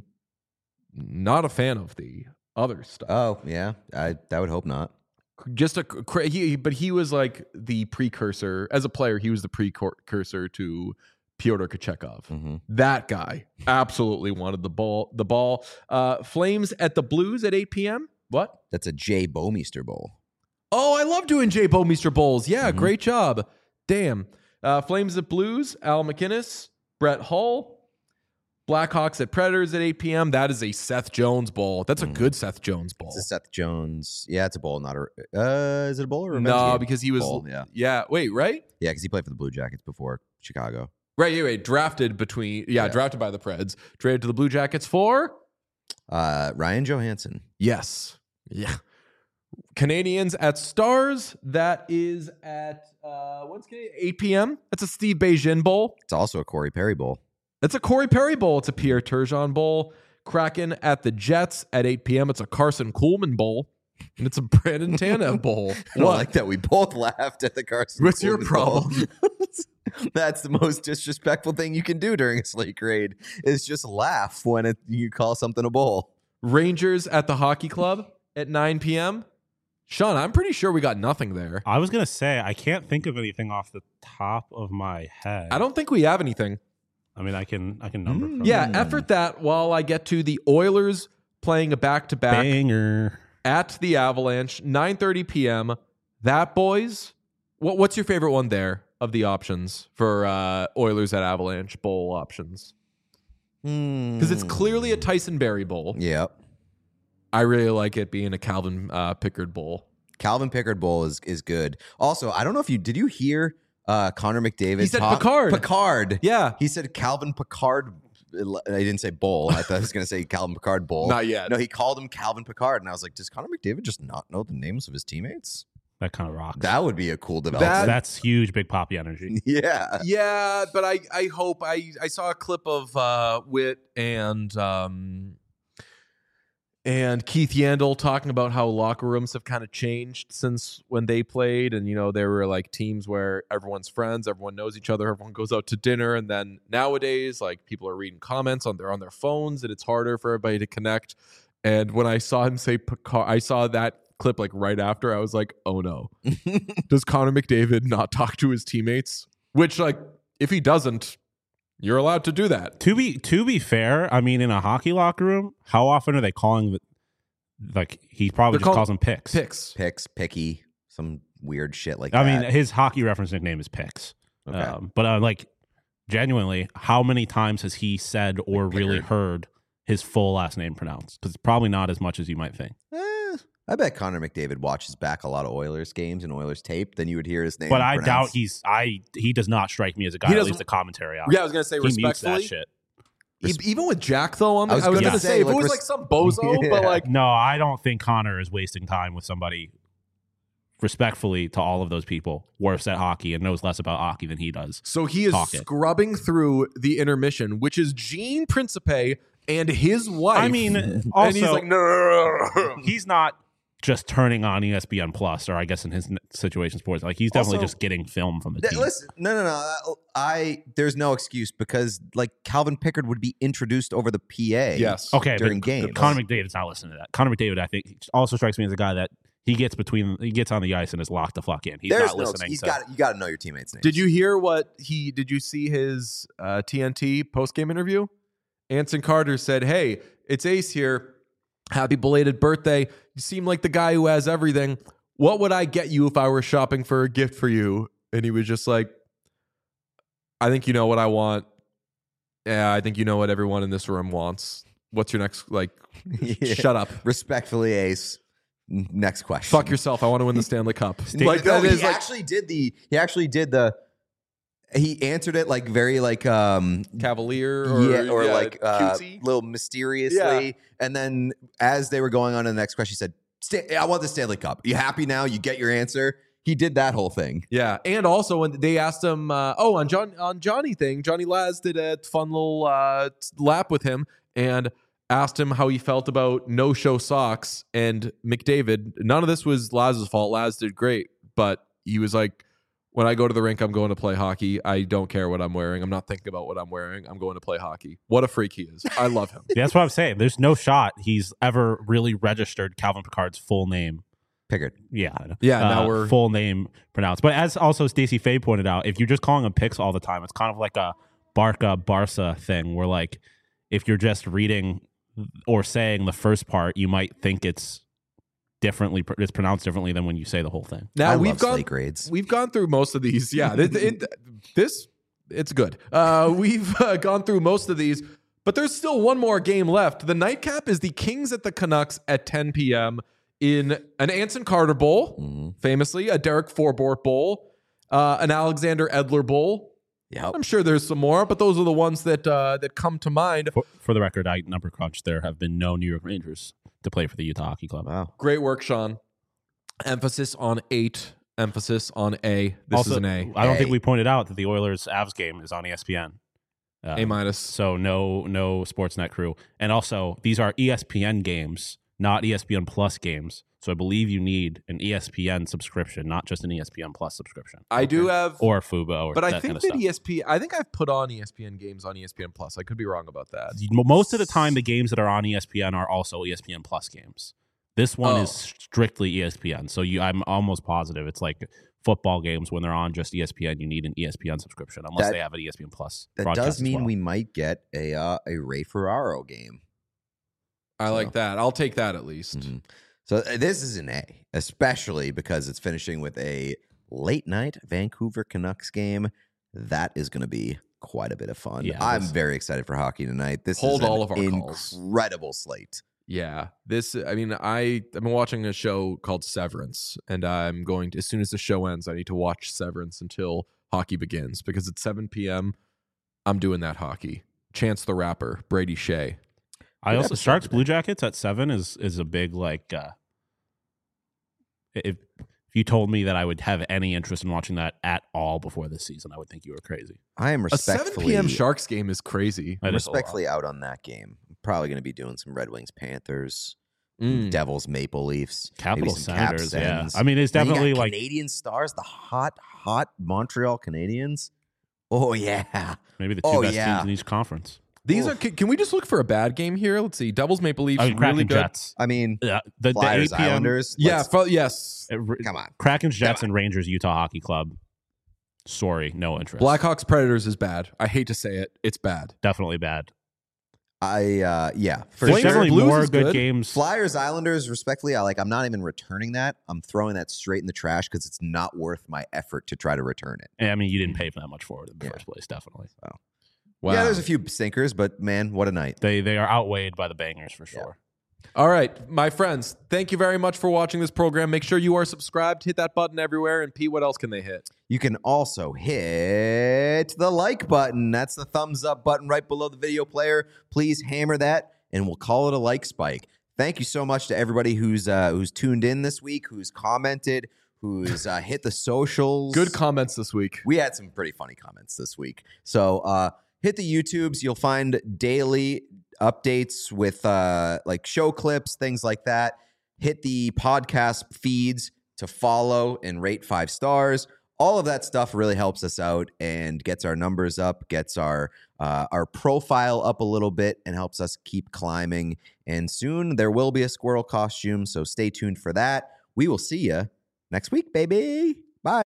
Not a fan of the other stuff. Oh yeah, I I would hope not. Just a he, but he was like the precursor as a player. He was the precursor to Pyotr Kochetkov. Mm-hmm. That guy absolutely wanted the ball. The ball. Uh, Flames at the Blues at eight p.m. What? That's a Jay Bomeister Bowl. Oh, I love doing Jay Bomeister Bowls. Yeah, Mm-hmm. great job. Damn. Uh, Flames at Blues. Al McInnes, Brett Hull. Blackhawks at Predators at eight p.m. That is a Seth Jones Bowl. That's a Mm. good Seth Jones Bowl. It's a Seth Jones. Yeah, it's a bowl, not a. Uh, is it a bowl or a revenge No, game? because he was. Bowl, yeah, Yeah. Wait. Right. yeah, because he played for the Blue Jackets before Chicago. Right. Yeah. Right. Drafted between. Yeah, Yeah. Drafted by the Preds. Traded to the Blue Jackets for. Uh, Ryan Johansson. Yes. Yeah. Canadians at Stars. That is at uh, what's Canadian? eight p.m. That's a Steve Beijing Bowl. It's also a Corey Perry Bowl. That's a Corey Perry Bowl. It's a Pierre Turgeon Bowl. Kraken at the Jets at eight p.m. It's a Carson Coolman Bowl. And it's a Brandon Tanev Bowl. I don't like that we both laughed at the Carson. What's your Coolman Bowl. problem? That's the most disrespectful thing you can do during a slate grade is just laugh when it, you call something a bowl. Rangers at the Hockey Club at nine p.m. Sean, I'm pretty sure we got nothing there. I was gonna say I can't think of anything off the top of my head. I don't think we have anything. I mean, I can I can number. Mm, from Yeah, Hmm. effort that while I get to the Oilers playing a back-to-back banger. at the Avalanche, nine thirty p.m. That, boys, what, what's your favorite one there of the options for uh, Oilers at Avalanche Bowl options? Because it's clearly a Tyson Berry Bowl. Yep. I really like it being a Calvin uh, Pickard Bowl. Calvin Pickard Bowl is is good. Also, I don't know if you did you hear uh, Connor McDavid? He said talk- Picard. Picard. Yeah. He said Calvin Picard. I didn't say bowl. I thought I was going to say Calvin Picard Bowl. Not yet. No, he called him Calvin Picard, and I was like, does Connor McDavid just not know the names of his teammates? That kind of rocks. That would be a cool development. That- That's huge, big poppy energy. yeah. Yeah, but I, I hope I I saw a clip of uh, Witt and um, and Keith Yandel talking about how locker rooms have kind of changed since when they played, and you know there were like teams where everyone's friends, everyone knows each other, everyone goes out to dinner, and then nowadays like people are reading comments on their on their phones, and it's harder for everybody to connect. And when I saw him say Picard, I saw that clip like right after. I was like, oh no, does Connor McDavid not talk to his teammates? Which like if he doesn't, you're allowed to do that. To be to be fair, I mean, in a hockey locker room, how often are they calling the like he probably They're just called calls them picks. Picks. Picks, picky, some weird shit like I that. mean, his hockey reference nickname is picks. Okay. Um, but uh, like genuinely, how many times has he said or Like really Pickard. heard his full last name pronounced? Because probably not as much as you might think. Eh, I bet Connor McDavid watches back a lot of Oilers games and Oilers tape. Then you would hear his name. But I doubt pronounced. he's I he does not strike me as a guy He that doesn't- leaves the commentary out. Yeah, I was gonna say he mutes that respectfully. shit. E- Even with Jack though, on the, I was I was gonna gonna say, say if like, it was res- like some bozo, Yeah. but like No, I don't think Connor is wasting time with somebody respectfully to all of those people worse at hockey and knows less about hockey than he does. so he is Talk it. scrubbing through the intermission, which is Gene Principe and his wife. I mean, and also he's like, no, no, no, no. he's not just turning on E S P N Plus, or I guess in his n- situation sports, like he's definitely Also- just getting film from the Th- team. Listen, no, no, no. I there's no excuse because like Calvin Pickard would be introduced over the P A. Yes. Okay, during but games. Connor McDavid's not listening to that. Connor McDavid, I think, also strikes me as a guy that he gets between, he gets on the ice and is locked the fuck in. He's There's not no. listening. He's to, got. You got to know your teammates' names. Did you hear what he? Did you see his uh, T N T post game interview? Anson Carter said, "Hey, it's Ace here. Happy belated birthday. You seem like the guy who has everything. What would I get you if I were shopping for a gift for you?" And he was just like, "I think you know what I want. Yeah, I think you know what everyone in this room wants." What's your next, like, Yeah. shut up. Respectfully, Ace. N- Next question. Fuck yourself. I want to win the Stanley Cup. Like that no, is he like actually did the. He actually did the. He answered it like very like um Cavalier or, yeah or yeah, like uh, cutesy. little mysteriously, Yeah. and then as they were going on to the next question, he said, "Sta- "I want the Stanley Cup. You happy now? You get your answer." He did that whole thing. Yeah, and also when they asked him, uh, oh, on John on Johnny thing, Johnny Laz did a fun little uh, lap with him and asked him how he felt about no-show socks. And McDavid, none of this was Laz's fault. Laz did great, but he was like, when I go to the rink, I'm going to play hockey. I don't care what I'm wearing. I'm not thinking about what I'm wearing. I'm going to play hockey. What a freak he is. I love him. Yeah, that's what I'm saying. There's no shot he's ever really registered Calvin Picard's full name. Pickard. Yeah, I know. Yeah, now Uh, we're- full name pronounced. But as also Stacey Fay pointed out, if you're just calling him Picks all the time, it's kind of like a Barca Barca thing where, like, if you're just reading or saying the first part, you might think it's differently, it's pronounced differently than when you say the whole thing. Now I we've love gone slate grades. We've gone through most of these. Yeah, it, it, this it's good. Uh, we've uh, gone through most of these, but there's still one more game left. The nightcap is the Kings at the Canucks at ten p.m. in an Anson Carter Bowl, Mm-hmm. famously a Derek Forbort Bowl, uh, an Alexander Edler Bowl. Yep. I'm sure there's some more, but those are the ones that uh, that come to mind. For, for the record, I number crunch. There have been no New York Rangers to play for the Utah Hockey Club. Wow. Great work, Sean. Emphasis on eight. Emphasis on A. This also, is an A. I don't A. think we pointed out that the Oilers Avs game is on E S P N. Um, A minus. So no, no Sportsnet crew, and also these are E S P N games, not E S P N Plus games. So I believe you need an E S P N subscription, not just an E S P N Plus subscription. I do have, Or Fubo, or but I that think kind of that stuff. E S P. I think I've put on E S P N games on E S P N Plus. I could be wrong about that. Most of the time, the games that are on E S P N are also E S P N Plus games. This one Oh. is strictly E S P N. So you, I'm almost positive it's like football games when they're on just E S P N. You need an E S P N subscription unless That- they have an E S P N Plus. That broadcast does as mean well. we might get a uh, a Ray Ferraro game. I So- like that. I'll take that at least. Mhm. So uh, this is an A, especially because it's finishing with a late night Vancouver Canucks game. That is going to be quite a bit of fun. Yeah, I'm this- very excited for hockey tonight. This Hold is an all of our calls. incredible slate. Yeah, this. I mean, I I've been watching a show called Severance, and I'm going to as soon as the show ends, I need to watch Severance until hockey begins because at seven p.m. I'm doing that hockey. Chance the Rapper, Brady Shea. I Good also episode Sharks today. Blue Jackets at seven is is a big like. Uh, if if you told me that I would have any interest in watching that at all before this season, I would think you were crazy. I am A seven respectfully p.m. Sharks game is crazy. That is a lot. respectfully out on that game. I'm probably going to be doing some Red Wings Panthers, Mm. Devils Maple Leafs, maybe Capital some Cap Senators, yeah. Sens. I mean, it's Then you got definitely like Canadian Stars, the hot, hot Montreal Canadiens. Oh yeah, maybe the two Oh, best yeah. teams in each conference. These Oof. are. Can, can we just look for a bad game here? Let's see. Devils, Maple Leafs, I mean, Kraken really good. Jets. I mean Yeah, the, the Flyers, eight p.m. Islanders. Yeah, let's- fro- yes. uh, r- come on. Kraken Jets Come and Rangers Utah Hockey Club. Sorry, no interest. Blackhawks Predators is bad. I hate to say it. It's bad. Definitely bad. I uh yeah, for There's Flames sure. definitely Blues more is good, good. games. Flyers, Islanders, respectfully, I like. I'm not even returning that. I'm throwing that straight in the trash because it's not worth my effort to try to return it. And, I mean, you didn't pay for that much for it in the Yeah. first place. Definitely, Wow. Yeah, there's a few stinkers, but man, what a night! they they are outweighed by the bangers for sure. All right, my friends, thank you very much for watching this program. Make sure you are subscribed. Hit that button everywhere. And Pete, what else can they hit? You can also hit the like button. That's the thumbs up button right below the video player. Please hammer that, and we'll call it a like spike. Thank you so much to everybody who's uh, who's tuned in this week, who's commented, who's uh, hit the socials. Good comments this week. We had some pretty funny comments this week. So uh, hit the YouTubes. You'll find daily updates with uh, like show clips, things like that. Hit the podcast feeds to follow and rate five stars. All of that stuff really helps us out and gets our numbers up, gets our uh, our profile up a little bit, and helps us keep climbing. And soon there will be a squirrel costume, so stay tuned for that. We will see you next week, baby. Bye.